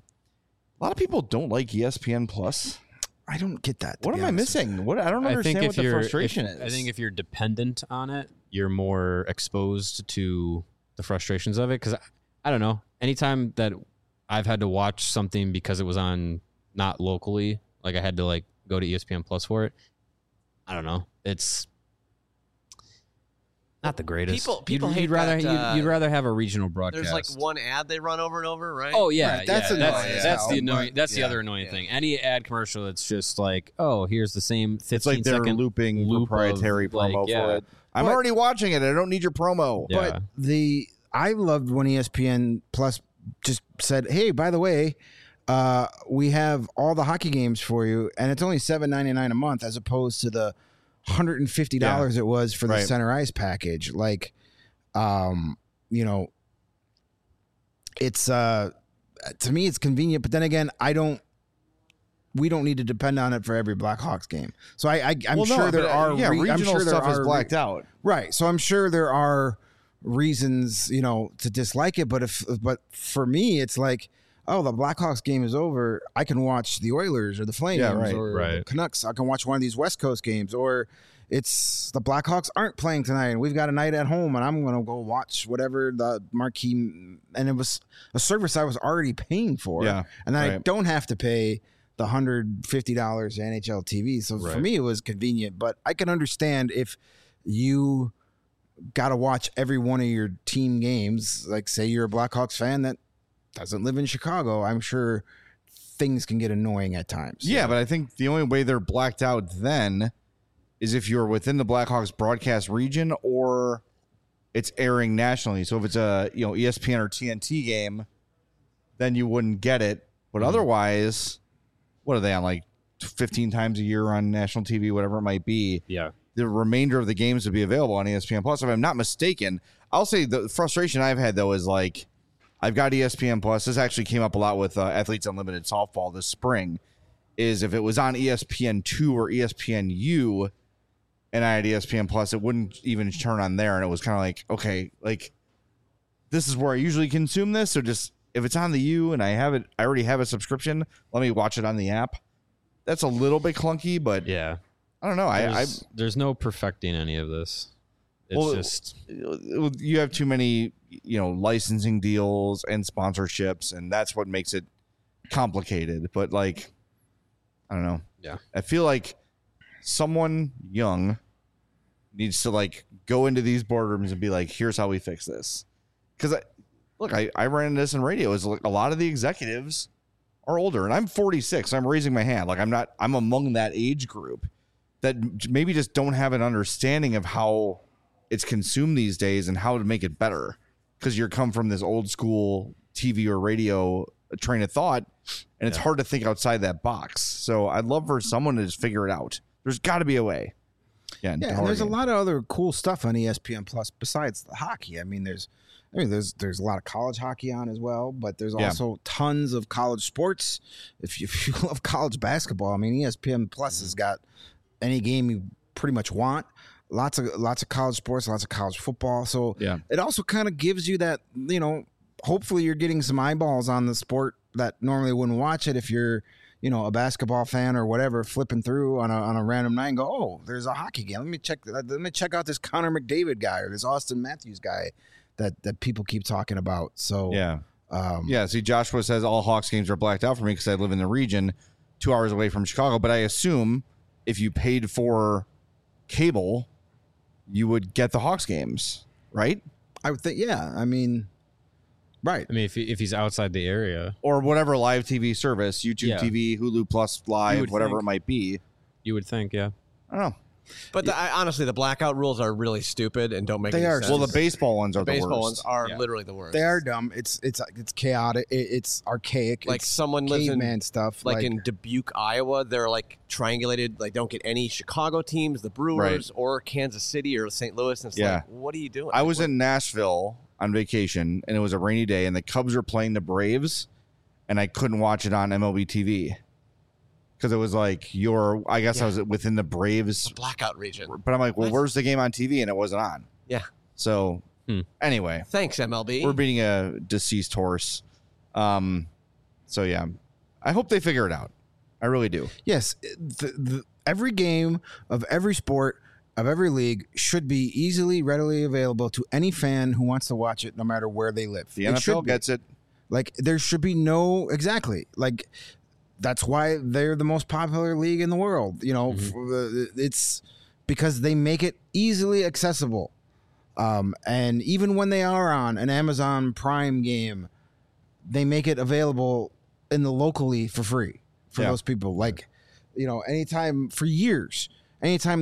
lot of people don't like ESPN Plus. I don't get that. to What be am I honest. missing? What I don't I understand think what the frustration is. I think if you're dependent on it, you're more exposed to the frustrations of it. Because I don't know. Anytime that I've had to watch something because it was on not locally, like I had to like go to ESPN Plus for it. I don't know. It's Not the greatest. People hate you'd rather that, you'd rather have a regional broadcast. There's like one ad they run over and over, right? Oh yeah, Right, that's yeah. annoying. That's the Yeah. annoying. That's the Yeah. other annoying Yeah. thing. Any ad commercial that's just like, oh, here's the same 15 It's like they're second looping loop proprietary of, like, promo yeah. for it. I'm But- already watching it. I don't need your promo. Yeah. But I loved when ESPN Plus just said, "Hey, by the way, we have all the hockey games for you, and it's only $7.99 a month, as opposed to the $150 it was for the Right. Center Ice package." Like, it's to me it's convenient, but then again, we don't need to depend on it for every Blackhawks game. So I'm Well, no, sure there but, are I'm regional sure there stuff is are blacked out. Right. So I'm sure there are reasons, to dislike it. But for me, it's like, oh, the Blackhawks game is over. I can watch the Oilers or the Flames Yeah, right, or right. the Canucks. I can watch one of these West Coast games, or it's the Blackhawks aren't playing tonight and we've got a night at home and I'm going to go watch whatever the marquee. And it was a service I was already paying for. Yeah, And then I right. don't have to pay the $150 NHL TV. So for Right. me, it was convenient, but I can understand if you got to watch every one of your team games. Like, say you're a Blackhawks fan that doesn't live in Chicago. I'm sure things can get annoying at times. Yeah, but I think the only way they're blacked out then is if you're within the Blackhawks broadcast region or it's airing nationally. So if it's a ESPN or TNT game, then you wouldn't get it. But otherwise, what are they on, like 15 times a year on national TV, whatever it might be? Yeah. The remainder of the games would be available on ESPN Plus. If I'm not mistaken, I'll say the frustration I've had though is like I've got ESPN Plus. This actually came up a lot with Athletes Unlimited softball this spring. Is if it was on ESPN2 or ESPNU, and I had ESPN Plus, it wouldn't even turn on there, and it was kind of like, okay, like this is where I usually consume this. So just if it's on the U and I already have a subscription, let me watch it on the app. That's a little bit clunky, but Yeah. I don't know. There's no perfecting any of this. It's just You have too many, licensing deals and sponsorships, and that's what makes it complicated. But like, I don't know. Yeah. I feel like someone young needs to like go into these boardrooms and be like, here's how we fix this. Because I ran into this in radio. Is like a lot of the executives are older, and I'm 46. So I'm raising my hand. Like I'm among that age group that maybe just don't have an understanding of how it's consumed these days and how to make it better. Because you come from this old school TV or radio train of thought, and it's hard to think outside that box. So I'd love for someone to just figure it out. There's got to be a way. Yeah, and there's a lot of other cool stuff on ESPN Plus besides the hockey. There's a lot of college hockey on as well, but there's also tons of college sports. If you love college basketball, ESPN Plus has got any game you pretty much want. Lots of college sports, lots of college football. So it also kind of gives you that, hopefully you're getting some eyeballs on the sport that normally wouldn't watch it if you're, a basketball fan or whatever, flipping through on a random night and go, oh, there's a hockey game. Let me check out this Connor McDavid guy or this Austin Matthews guy that people keep talking about. So see, Joshua says all Hawks games are blacked out for me because I live in the region 2 hours away from Chicago. But I assume if you paid for cable, you would get the Hawks games, right? I would think, right. if he's outside the area, Or whatever live TV service, YouTube TV, Hulu Plus Live, whatever think. it might be. you would think, yeah. I don't know. But honestly, the blackout rules are really stupid and don't make They any are. sense. Well, the baseball ones are the baseball worst. ones are literally the worst. They are dumb. It's chaotic. It's archaic. Like it's someone lives in caveman stuff. like in Dubuque, Iowa. They're like triangulated. Like don't get any Chicago teams, the Brewers or Kansas City or St. Louis. And it's like, what are you doing? I was in Nashville on vacation, and it was a rainy day, and the Cubs were playing the Braves, and I couldn't watch it on MLB TV because it was like I guess I was within the Braves blackout region. But I'm like, well, where's the game on TV? And it wasn't on. Yeah. So anyway, thanks MLB. we're beating a deceased horse. So yeah, I hope they figure it out. I really do. Yes, every game of every sport of every league should be easily, readily available to any fan who wants to watch it, no matter where they live. The It should NFL be. gets it. Like there should be like that's why they're the most popular league in the world. It's because they make it easily accessible. And even when they are on an Amazon Prime game, they make it available in the locally for free for those people. Like, anytime for years, anytime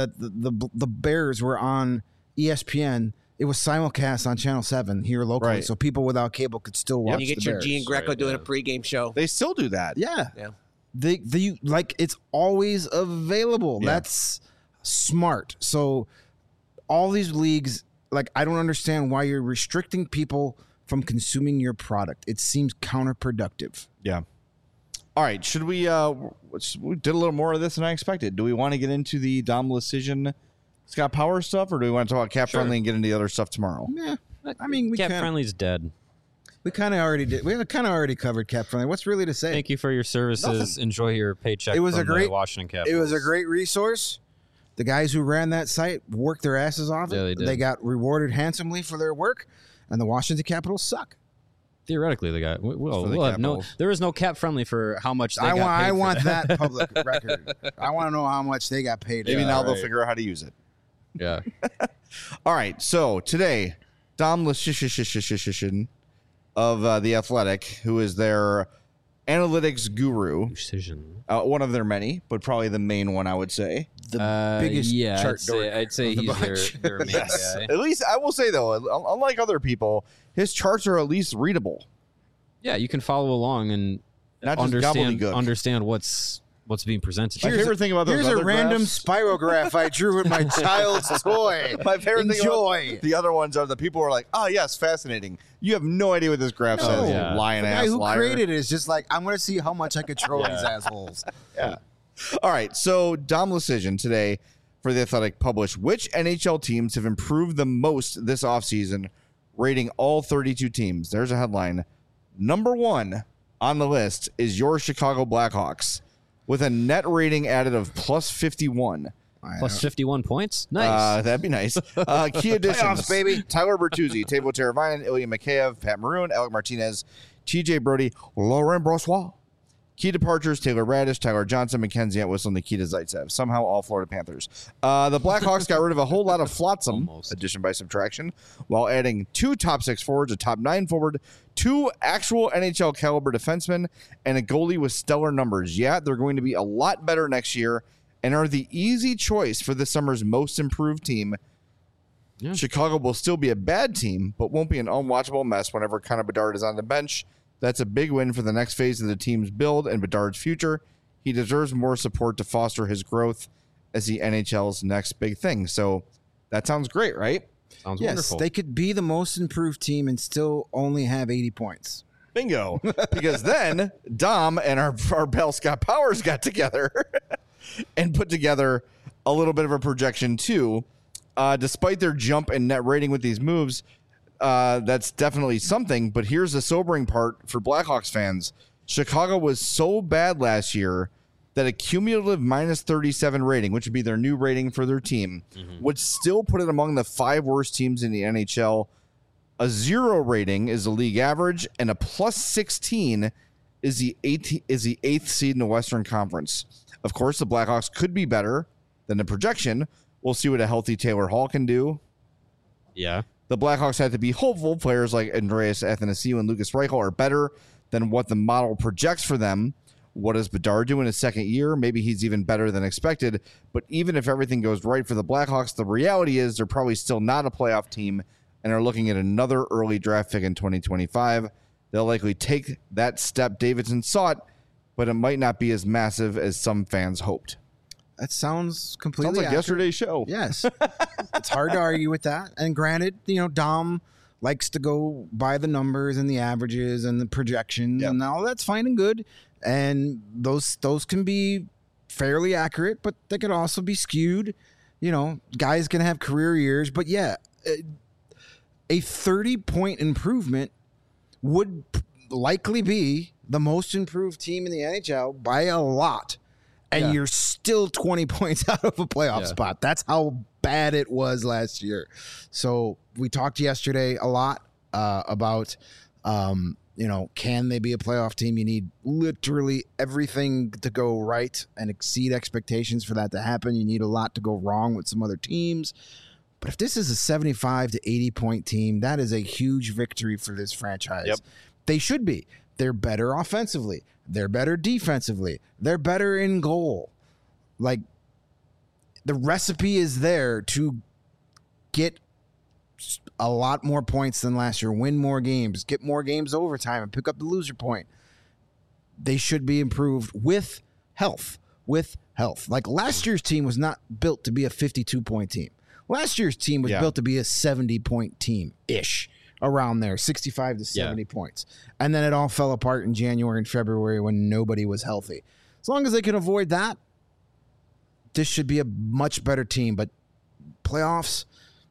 the Bears were on ESPN, it was simulcast on Channel 7 here locally, so people without cable could still watch. You get the your Bears. Gian Greco doing a pregame show. They still do that. Yeah. Yeah. It's always available. Yeah. That's smart. So all these leagues, I don't understand why you're restricting people from consuming your product. It seems counterproductive. Yeah. All right. Should we? We did a little more of this than I expected. Do we want to get into the Dom Lucian, Scott Power stuff, or do we want to talk about cap friendly and get into the other stuff tomorrow? Yeah. I mean, Cap Friendly's dead. We kind of already did. We kind of already covered Cap Friendly. What's really to say? Thank you for your services. Enjoy your paycheck. It was from a great the Washington Capitals. It was a great resource. The guys who ran that site worked their asses off. Yeah, they did. They got rewarded handsomely for their work, and the Washington Capitals suck. Theoretically, the guy. We'll have Capitals. there is no cap friendly for how much they got paid I for want that public record. I want to know how much they got paid. Maybe now they'll figure out how to use it. Yeah. All right. So today, Dom Lucian of The Athletic, who is their analytics guru, one of their many, but probably the main one, I would say. The biggest chart I'd say he's their main guy. At least I will say, though, unlike other people, his charts are at least readable. Yeah, you can follow along and Not just gobbledygook. understand what's being presented. My favorite thing about those Here's other a random graphs- spirograph I drew with my child's toy. My favorite thing Enjoy. about the other ones are the people who are like, oh, yes, fascinating. You have no idea what this graph says, you Yeah. lying The ass guy who liar. created it is just like, I'm going to see how much I could troll these assholes. Yeah. All right. So Dom Lucian today for The Athletic published which NHL teams have improved the most this offseason, rating all 32 teams. There's a headline. Number one on the list is your Chicago Blackhawks with a net rating added of plus 51. Plus 51 points? Nice. That'd be nice. Key additions, Playoffs, baby. Tyler Bertuzzi, Teuvo Teravainen, Ilya Mikheyev, Pat Maroon, Alec Martinez, TJ Brody, Laurent Brossoit. Key departures, Taylor Radish, Tyler Johnson, Mackenzie Atwhistle, and Nikita Zaitsev. Somehow all Florida Panthers. The Blackhawks got rid of a whole lot of flotsam, addition by subtraction, while adding 2 top 6 forwards, a top 9 forward, 2 actual NHL caliber defensemen, and a goalie with stellar numbers. Yeah, they're going to be a lot better next year and are the easy choice for this summer's most improved team. Yeah. Chicago will still be a bad team, but won't be an unwatchable mess whenever Connor Bedard is on the bench. That's a big win for the next phase of the team's build and Bedard's future. He deserves more support to foster his growth as the NHL's next big thing. So that sounds great, right? Sounds Yes, wonderful. they could be the most improved team and still only have 80 points. Bingo. Because then Dom and our pal Scott Powers got together and put together a little bit of a projection too. Despite their jump in net rating with these moves, that's definitely something. But here's the sobering part for Blackhawks fans. Chicago was so bad last year that a cumulative minus 37 rating, which would be their new rating for their team, would still put it among the 5 worst teams in the NHL. A 0 rating is the league average, and a plus 16 is the 8th seed in the Western Conference. Of course, the Blackhawks could be better than the projection. We'll see what a healthy Taylor Hall can do. Yeah. The Blackhawks had to be hopeful. Players like Andreas Athanasiou and Lucas Reichel are better than what the model projects for them. What does Bedard do in his second year? Maybe he's even better than expected. But even if everything goes right for the Blackhawks, the reality is they're probably still not a playoff team and are looking at another early draft pick in 2025. They'll likely take that step Davidson sought, but it might not be as massive as some fans hoped. That sounds completely Sounds like accurate. yesterday's show. Yes. It's hard to argue with that. And granted, Dom likes to go by the numbers and the averages and the projections, and all that's fine and good. And those can be fairly accurate, but they could also be skewed. Guys can have career years, but yeah, a 30-point improvement would likely be the most improved team in the NHL by a lot. And you're still 20 points out of a playoff spot. That's how bad it was last year. So we talked yesterday a lot about, can they be a playoff team? You need literally everything to go right and exceed expectations for that to happen. You need a lot to go wrong with some other teams. But if this is a 75 to 80 point team, that is a huge victory for this franchise. Yep. They should be. They're better offensively. They're better defensively. They're better in goal. Like, the recipe is there to get a lot more points than last year, win more games, get more games overtime, and pick up the loser point. They should be improved with health. Like, last year's team was not built to be a 52-point team. Last year's team was built to be a 70-point team-ish, around there, 65 to 70 points. And then it all fell apart in January and February when nobody was healthy. As long as they can avoid that, this should be a much better team. But playoffs,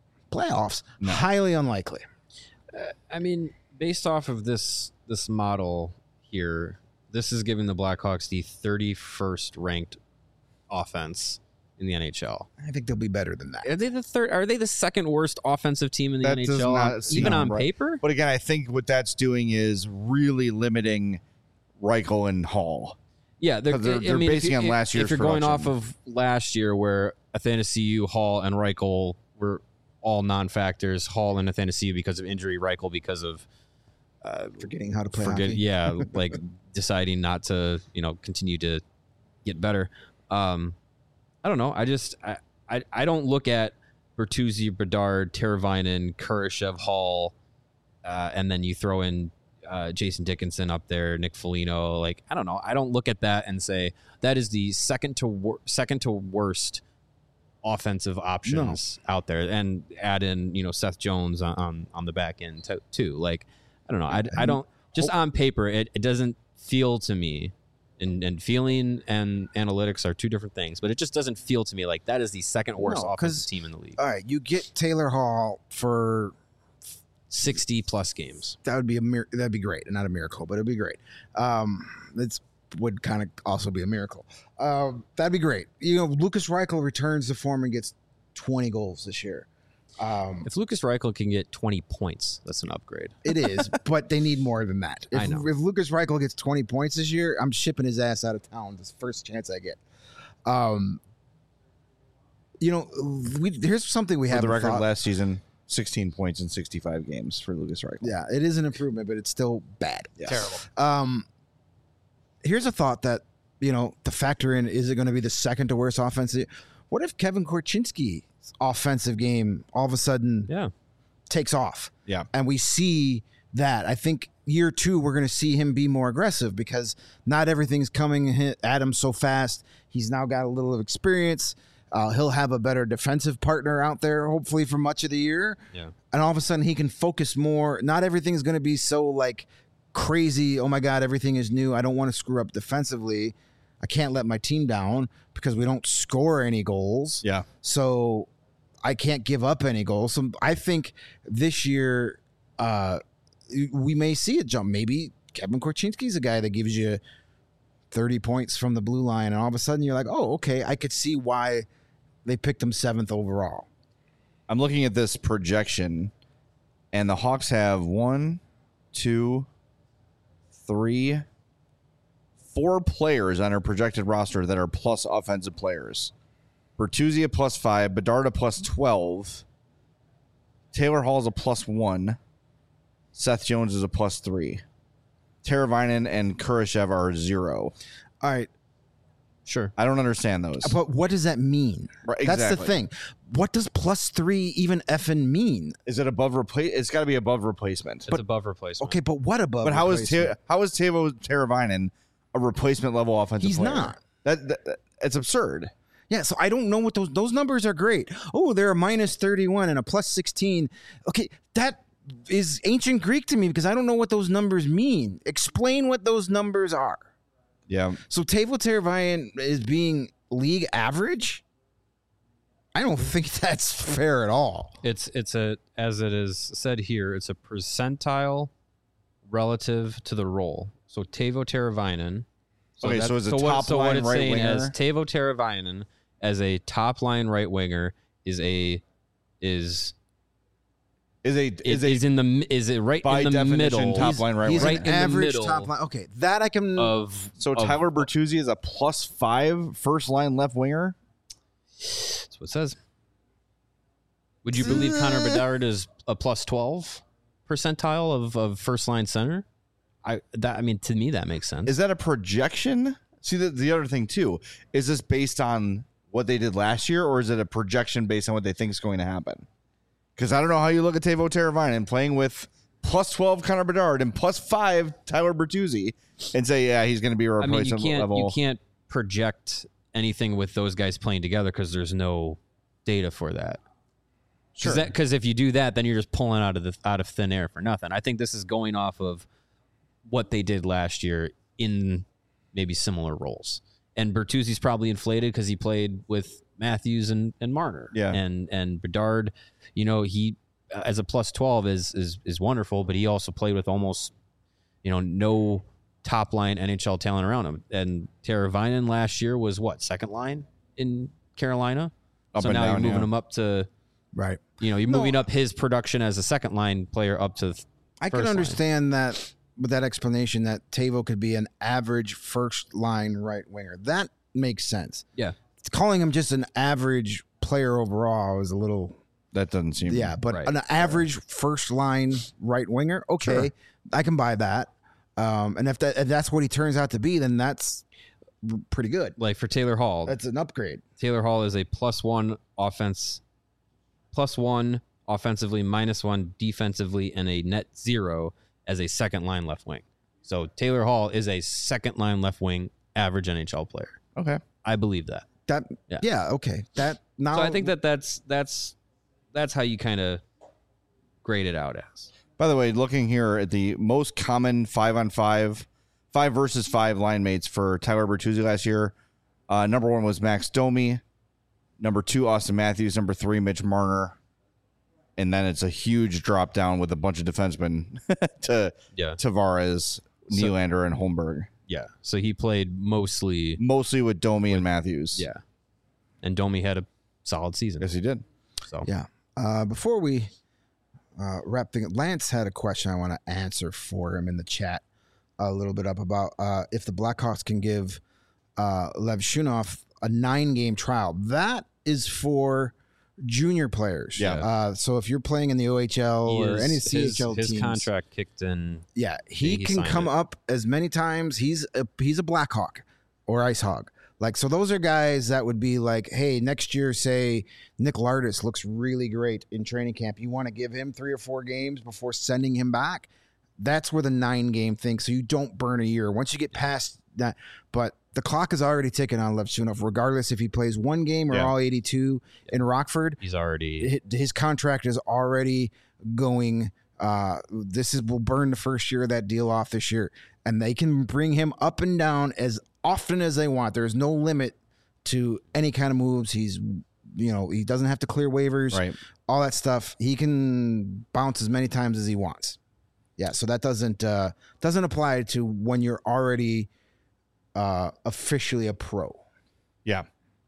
no. Highly unlikely. I mean, based off of this model here, this is giving the Blackhawks the 31st ranked offense in the NHL. I think they'll be better than that. Are they the third? Are they the second worst offensive team in the NHL, even on paper? But again, I think what that's doing is really limiting Reichel and Hall. Yeah, they're basing on last year's. If you're going off of last year, where Athanasiou, Hall, and Reichel were all non-factors, Hall and Athanasiou because of injury, Reichel because of forgetting how to play hockey. Yeah, like deciding not to, continue to get better. I don't know. I don't look at Bertuzzi, Bedard, Teravainen, Kurashev, Hall, and then you throw in Jason Dickinson up there, Nick Foligno. Like, I don't know. I don't look at that and say that is the second to worst offensive options out there, and add in Seth Jones on the back end too. Like, I don't know. I don't, just on paper it doesn't feel to me. And feeling and analytics are two different things, but it just doesn't feel to me like that is the second worst offensive team in the league. All right, you get Taylor Hall for 60 plus games. That would be that'd be great, not a miracle, but it'd be great. It would kind of also be a miracle. That'd be great. Lucas Reichel returns to form and gets 20 goals this year. If Lucas Reichel can get 20 points, that's an upgrade. It is, but they need more than that. I know. If Lucas Reichel gets 20 points this year, I'm shipping his ass out of town the first chance I get. Here's something we have. For the record, last season, 16 points in 65 games for Lucas Reichel. Yeah, it is an improvement, but it's still bad. Yes. Terrible. Here's a thought that, to factor in, is it going to be the second to worst offensive? What if Kevin Korchinski's offensive game all of a sudden takes off? Yeah. And we see that. I think year 2, we're going to see him be more aggressive because not everything's coming at him so fast. He's now got a little of experience. He'll have a better defensive partner out there, hopefully, for much of the year. Yeah. And all of a sudden, he can focus more. Not everything's going to be so, like, crazy. Oh, my God, everything is new. I don't want to screw up defensively. I can't let my team down because we don't score any goals. Yeah. So I can't give up any goals. So I think this year we may see a jump. Maybe Kevin Korchinski's a guy that gives you 30 points from the blue line, and all of a sudden you're like, oh, okay, I could see why they picked him 7th overall. I'm looking at this projection, and the Hawks have 1, 2, 3, 4 players on our projected roster that are plus offensive players. Bertuzzi a +5, Bedard a +12, Taylor Hall's a +1, Seth Jones is a +3. Teravainen and Kurashev are 0. All right. Sure. I don't understand those. But what does that mean? Right, That's exactly. the thing. What does +3 even effing mean? Is it above replace? It's got to be above replacement. It's above replacement. Okay, but what above? But how is replacement? Teuvo Teravainen a replacement level offensive He's player? not. That it's absurd. Yeah, so I don't know what those numbers are great. Oh, they're a -31 and a +16. Okay, that is ancient Greek to me because I don't know what those numbers mean. Explain what those numbers are. Yeah. So Teuvo Teravainen is being league average? I don't think that's fair at all. It's a, as it is said here, it's a percentile relative to the role. So Teuvo Teravainen. So it's a top what line it's right saying winger. as Teuvo Teravainen as a top line right winger is right Is in by the definition middle. top line right He's winger. right an in the average middle top line. Okay, that I can. So Tyler Bertuzzi is a +5 first line left winger. That's what it says. Would you believe Connor Bedard is a plus 12 percentile of first line center? I mean, to me, that makes sense. Is that a projection? See, the other thing, too, is this based on what they did last year, or is it a projection based on what they think is going to happen? Because I don't know how you look at Teuvo Teravainen playing with plus 12 Connor Bedard and plus 5 Tyler Bertuzzi and say, yeah, he's going to be a replacement level. You can't project anything with those guys playing together because there's no data for that. Sure. Because if you do that, then you're just pulling out of thin air for nothing. I think this is going off of what they did last year in maybe similar roles. And Bertuzzi's probably inflated because he played with Matthews and Marner. Yeah. And Bedard, he as a plus 12 is wonderful, but he also played with almost, no top line NHL talent around him. And Teravainen last year was second line in Carolina. So now you're moving him up to right. You're moving up his production as a second line player up to. I can understand that with that explanation that Teuvo could be an average first line right winger. That makes sense. Yeah. Calling him just an average player overall is a little. That doesn't seem. Yeah, but right. an average first line right winger, okay, sure. I can buy that. And if that's what he turns out to be, then that's pretty good. Like for Taylor Hall, that's an upgrade. Taylor Hall is a +1 offense, +1 offensively, -1 defensively, and a net 0 as a second line left wing. So Taylor Hall is a second line left wing average NHL player. Okay, I believe that. Yeah, okay. That now. So I think that's how you kind of grade it out as. By the way, looking here at the most common 5-on-5, 5 versus 5 line mates for Tyler Bertuzzi last year, number 1 was Max Domi, number 2 Austin Matthews, number 3 Mitch Marner, and then it's a huge drop down with a bunch of defensemen to Tavares, Nylander, and Holmberg. Yeah, so he played mostly with Domi and Matthews. Yeah, and Domi had a solid season. Yes, he did. So yeah. Before we wrap things, Lance had a question I want to answer for him in the chat a little bit up about if the Blackhawks can give Lev Shunov a 9-game trial. That is for junior players. Yeah. So if you're playing in the OHL or any CHL teams, his contract kicked in. Yeah, he can come up as many times. He's a Blackhawk or Ice Hog. Like, so those are guys that would be like, hey, next year, say Nick Lardis looks really great in training camp. You want to give him 3 or 4 games before sending him back. That's where the 9-game thing. So you don't burn a year once you get past that. But the clock is already ticking on Lev Shunov, regardless if he plays 1 game or all 82 in Rockford. He's already his contract is already going. Will burn the first year of that deal off this year, and they can bring him up and down as often as they want. There's no limit to any kind of moves. He doesn't have to clear waivers, right? All that stuff. He can bounce as many times as he wants. Yeah, so that doesn't apply to when you're already officially a pro. Yeah.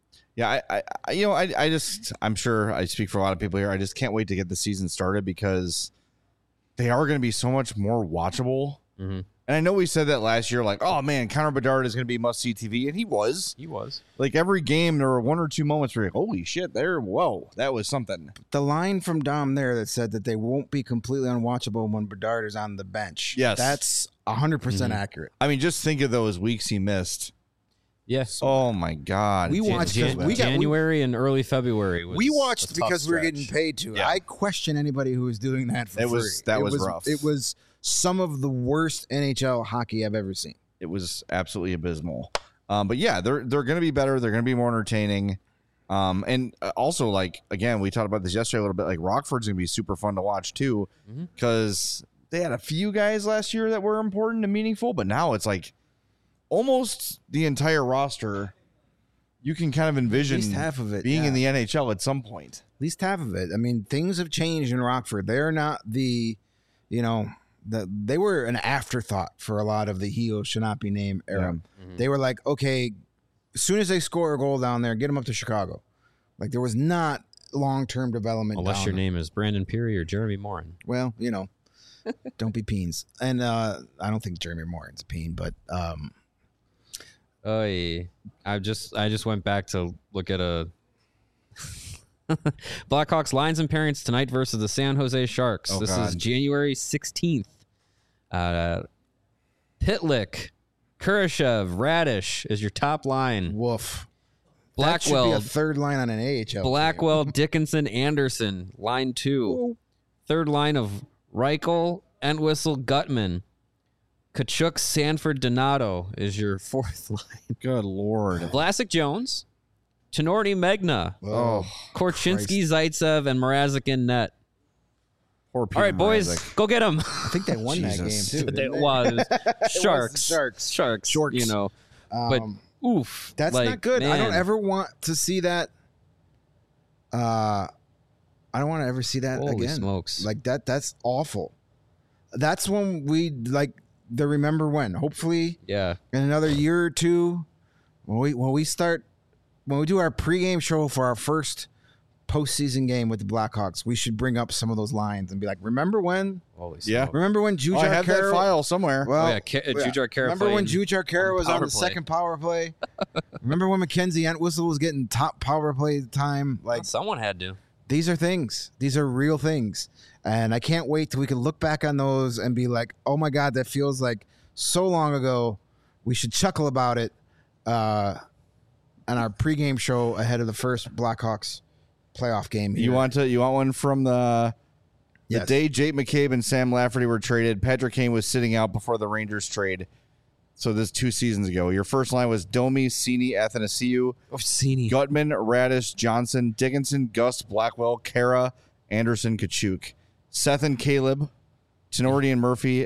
I'm sure I speak for a lot of people here. I just can't wait to get the season started because they are going to be so much more watchable. Mm-hmm. And I know we said that last year, like, oh man, Connor Bedard is going to be must-see TV, and he was. Like every game, there were 1 or 2 moments where you're like, holy shit, whoa, that was something. The line from Dom there that said that they won't be completely unwatchable when Bedard is on the bench. Yes, that's 100% accurate. I mean, just think of those weeks he missed. Yes. Oh my God. We watched January and early February. We watched because we were getting paid to. Yeah. I question anybody who was doing that for free. That was rough. It was some of the worst NHL hockey I've ever seen. It was absolutely abysmal. But yeah, they're going to be better. They're going to be more entertaining. And also, like, again, we talked about this yesterday a little bit. Like, Rockford's going to be super fun to watch too, because they had a few guys last year that were important and meaningful, but now it's like almost the entire roster. You can kind of envision at least half of it being in the NHL at some point. At least half of it. I mean, things have changed in Rockford. They're not they were an afterthought for a lot of the Heo should not be named era. Yeah. Mm-hmm. They were like, okay, as soon as they score a goal down there, get them up to Chicago. Like, there was not long-term development. Unless your name is Brandon Peary or Jeremy Morin. Well, don't be peens. And I don't think Jeremy Morin's a peen, but I just went back to look at a Blackhawks lines and pairings tonight versus the San Jose Sharks. Oh, this God. is January 16th. Pitlick, Kurashev, Radish is your top line. Woof. That should be a Blackwell, third line on an AHL team. Blackwell, Dickinson, Anderson, line 2. Third line of Reichel, Entwistle, Gutman. Kachuk, Sanford, Donato is your fourth line. Good Lord. Vlasic, Jones, Tenorti, Megna, Oh, Korchinski, Zaitsev, and Mrazek in net. Poor Peter All right, boys, Mrazek. go get them. I think they won that game Jesus. too. It didn't they? was Sharks. Sharks. You know. But oof, That's like, not good. I don't man. ever want to see that. I don't want to ever see that Holy again. smokes. Like that. That's awful. That's when we like the remember when. Hopefully, Yeah. in another year or two, when we do our pregame show for our first postseason game with the Blackhawks, we should bring up some of those lines and be like, "Remember when? Holy Yeah. smokes. Remember when Oh, Jujar I have that Kara- file somewhere. Well, Oh, yeah, Jujhar Khaira remember when played Jujhar Kara was on power the play. second power play? Remember when Mackenzie Entwistle was getting top power play time? Like Someone had to. these are things. These are real things, and I can't wait till we can look back on those and be like, "Oh my God, that feels like so long ago." We should chuckle about it on our pregame show ahead of the first Blackhawks playoff game. Here. You want one from the Yes. day Jake McCabe and Sam Lafferty were traded? Patrick Kane was sitting out before the Rangers trade. So this 2 seasons ago. Your first line was Domi, Cini, Athanasiou, Orsini. Gutman, Radish, Johnson, Dickinson, Gus, Blackwell, Kara, Anderson, Kachuk, Seth and Caleb, Tenorti and Murphy,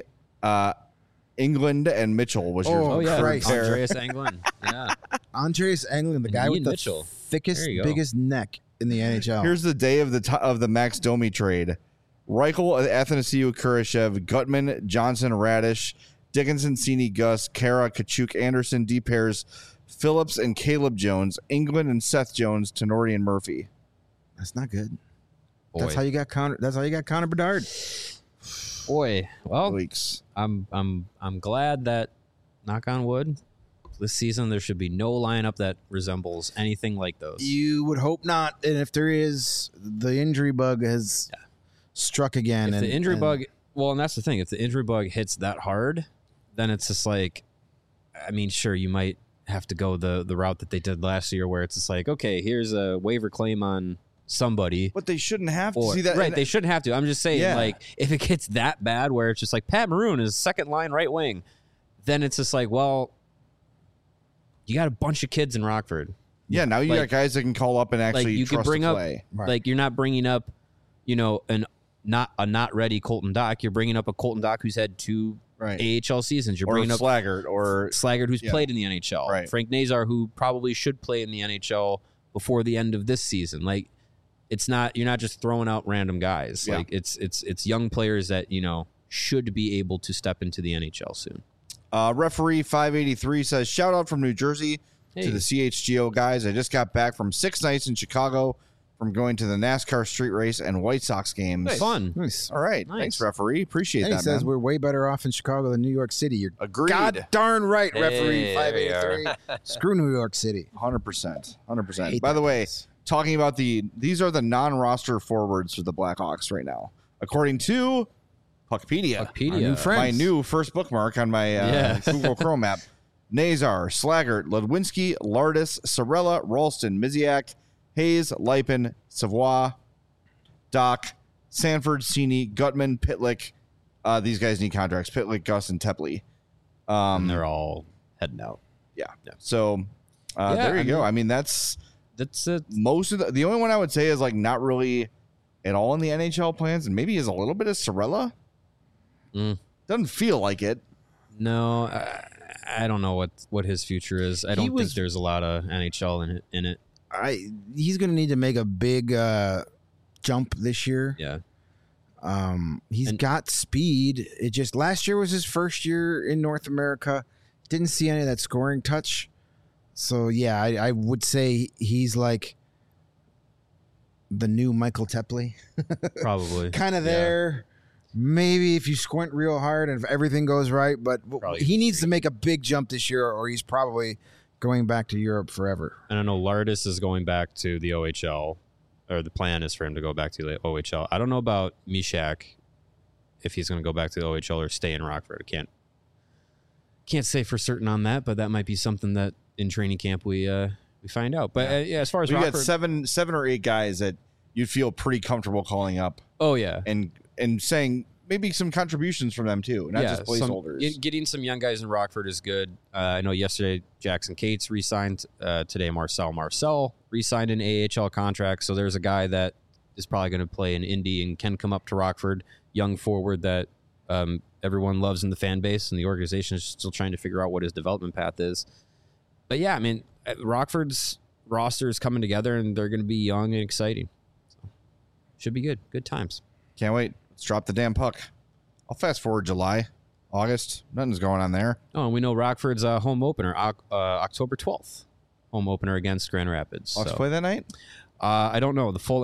England and Mitchell was your Oh, yeah. Christ. Andreas Anglin. Yeah. Andreas Englund, the guy Ian with the Mitchell. thickest, There you go. biggest neck in the NHL. Here's the day of the Max Domi trade. Reichel, Athanasiou, Kurashev, Gutman, Johnson, Radish, Dickinson, Cini, Gus, Kara, Kachuk, Anderson, D. Pairs, Phillips, and Caleb Jones, England and Seth Jones, Tenorti and Murphy. That's not good. Boy. That's how you got Connor. That's how you got Connor Bedard. Boy. Well, Weeks. I'm glad that, knock on wood, this season there should be no lineup that resembles anything like those. You would hope not. And if there is, the injury bug has struck again. If the injury bug, well, and that's the thing. If the injury bug hits that hard, then it's just like, I mean, sure, you might have to go the route that they did last year, where it's just like, okay, here's a waiver claim on somebody. But they shouldn't have to Or, see that. right, they shouldn't have to. I'm just saying, Yeah. like, if it gets that bad, where it's just like Pat Maroon is second line right wing, then it's just like, well, you got a bunch of kids in Rockford. Yeah, now you Like- got guys that can call up and actually Like you trust can bring to up, play. Right. like you're not bringing up, not ready Colton Dock. You're bringing up a Colton Dock who's had 2 Right. AHL seasons. You're Or bringing up Slaggert or Slaggert, who's Yeah. played in the NHL. Right. Frank Nazar, who probably should play in the NHL before the end of this season. Like, it's not, you're not just throwing out random guys. Yeah. Like it's young players that should be able to step into the NHL soon. Referee 583 says, shout out from New Jersey Hey. to the CHGO guys. I just got back from 6 nights in Chicago from going to the NASCAR street race and White Sox games. Fun. Nice. All right. Nice. Thanks, referee. Appreciate And he that, says man. we're way better off in Chicago than New York City. You're Agreed. god darn right, referee Hey, there we 583. Screw New York City. 100%. 100%. Hate By the that way, place. talking about these are the non-roster forwards for the Blackhawks right now. According to Puckpedia. Our Puckpedia. new friend. My new first bookmark on my Yeah. Google Chrome app. Nazar, Slaggert, Ludwinski, Lardis, Sorella, Ralston, Miziak, Hayes, Lipin, Savoie, Doc, Sanford, Cini, Gutman, Pitlick. These guys need contracts. Pitlick, Gus, and Tepley. And they're all heading out. Yeah. Yeah. So there you go. I mean, that's That's it. most of the only one I would say is like not really at all in the NHL plans, and maybe is a little bit of Sorella. Doesn't feel like it. No, I don't know what his future is. I don't was- think there's a lot of NHL in it. He's going to need to make a big jump this year. Yeah. He's And- got speed. It just last year was his first year in North America. Didn't see any of that scoring touch. So yeah, I would say he's like the new Michael Tepley, Probably. kind of Yeah. there. Maybe if you squint real hard and if everything goes right, but Probably he needs to make a big jump this year, or he's probably going back to Europe forever. And I know Lardis is going back to the OHL. or the plan is for him to go back to the OHL. I don't know about Mishak, if he's going to go back to the OHL or stay in Rockford. I can't say for certain on that, but that might be something that in training camp we find out. But yeah, as far as we Rockford, got seven or eight guys that you'd feel pretty comfortable calling up. Oh yeah, and saying maybe some contributions from them too, not just placeholders. Getting some young guys in Rockford is good. I know yesterday Jackson Cates re-signed. Today Marcel re-signed an AHL contract. So there's a guy that is probably going to play in Indy and can come up to Rockford. Young forward that everyone loves in the fan base, and the organization is still trying to figure out what his development path is. But yeah, I mean, Rockford's roster is coming together, and they're going to be young and exciting. So, should be good. Good times. Can't wait. Let's drop the damn puck. I'll fast forward July, August. Nothing's going on there. Oh, and we know Rockford's home opener, October 12th. Home opener against Grand Rapids. Hawks play that night? I don't know. The full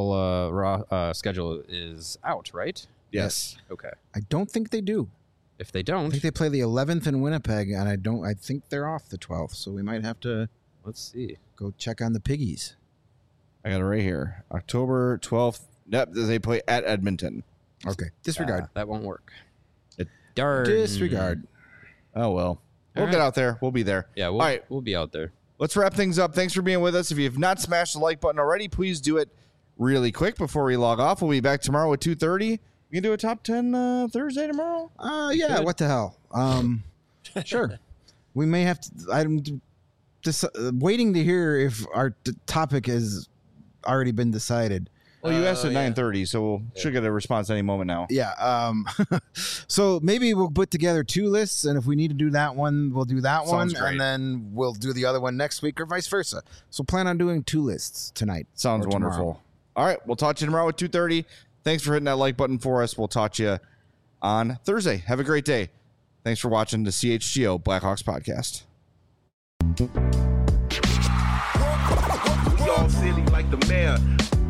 NHL schedule is out, right? Yes. Okay. I don't think they do. If they I don't, think they play the 11th in Winnipeg, and I think they're off the 12th, so we might have to let's see. go check on the Piggies. I got it right here. October 12th. Yep, they play at Edmonton. Okay. Disregard. That won't work. Darn. Disregard. Oh, well. We'll right. get out there. We'll be there. Yeah, All right. we'll be out there. Let's wrap things up. Thanks for being with us. If you have not smashed the like button already, please do it really quick before we log off. We'll be back tomorrow at 2:30. We can do a top 10 Thursday tomorrow? Yeah, what the hell? Sure. We may have to. I'm just waiting to hear if our topic has already been decided. Well, you asked at 9:30, so we should get a response any moment now. Yeah. So maybe we'll put together two lists, and if we need to do that one, we'll do that Sounds one, great. and then we'll do the other one next week, or vice versa. So plan on doing two lists tonight. Sounds or tomorrow. wonderful. All right, we'll talk to you tomorrow at 2:30. Thanks for hitting that like button for us. We'll talk to you on Thursday. Have a great day. Thanks for watching the CHGO Blackhawks podcast. We all silly like the mayor.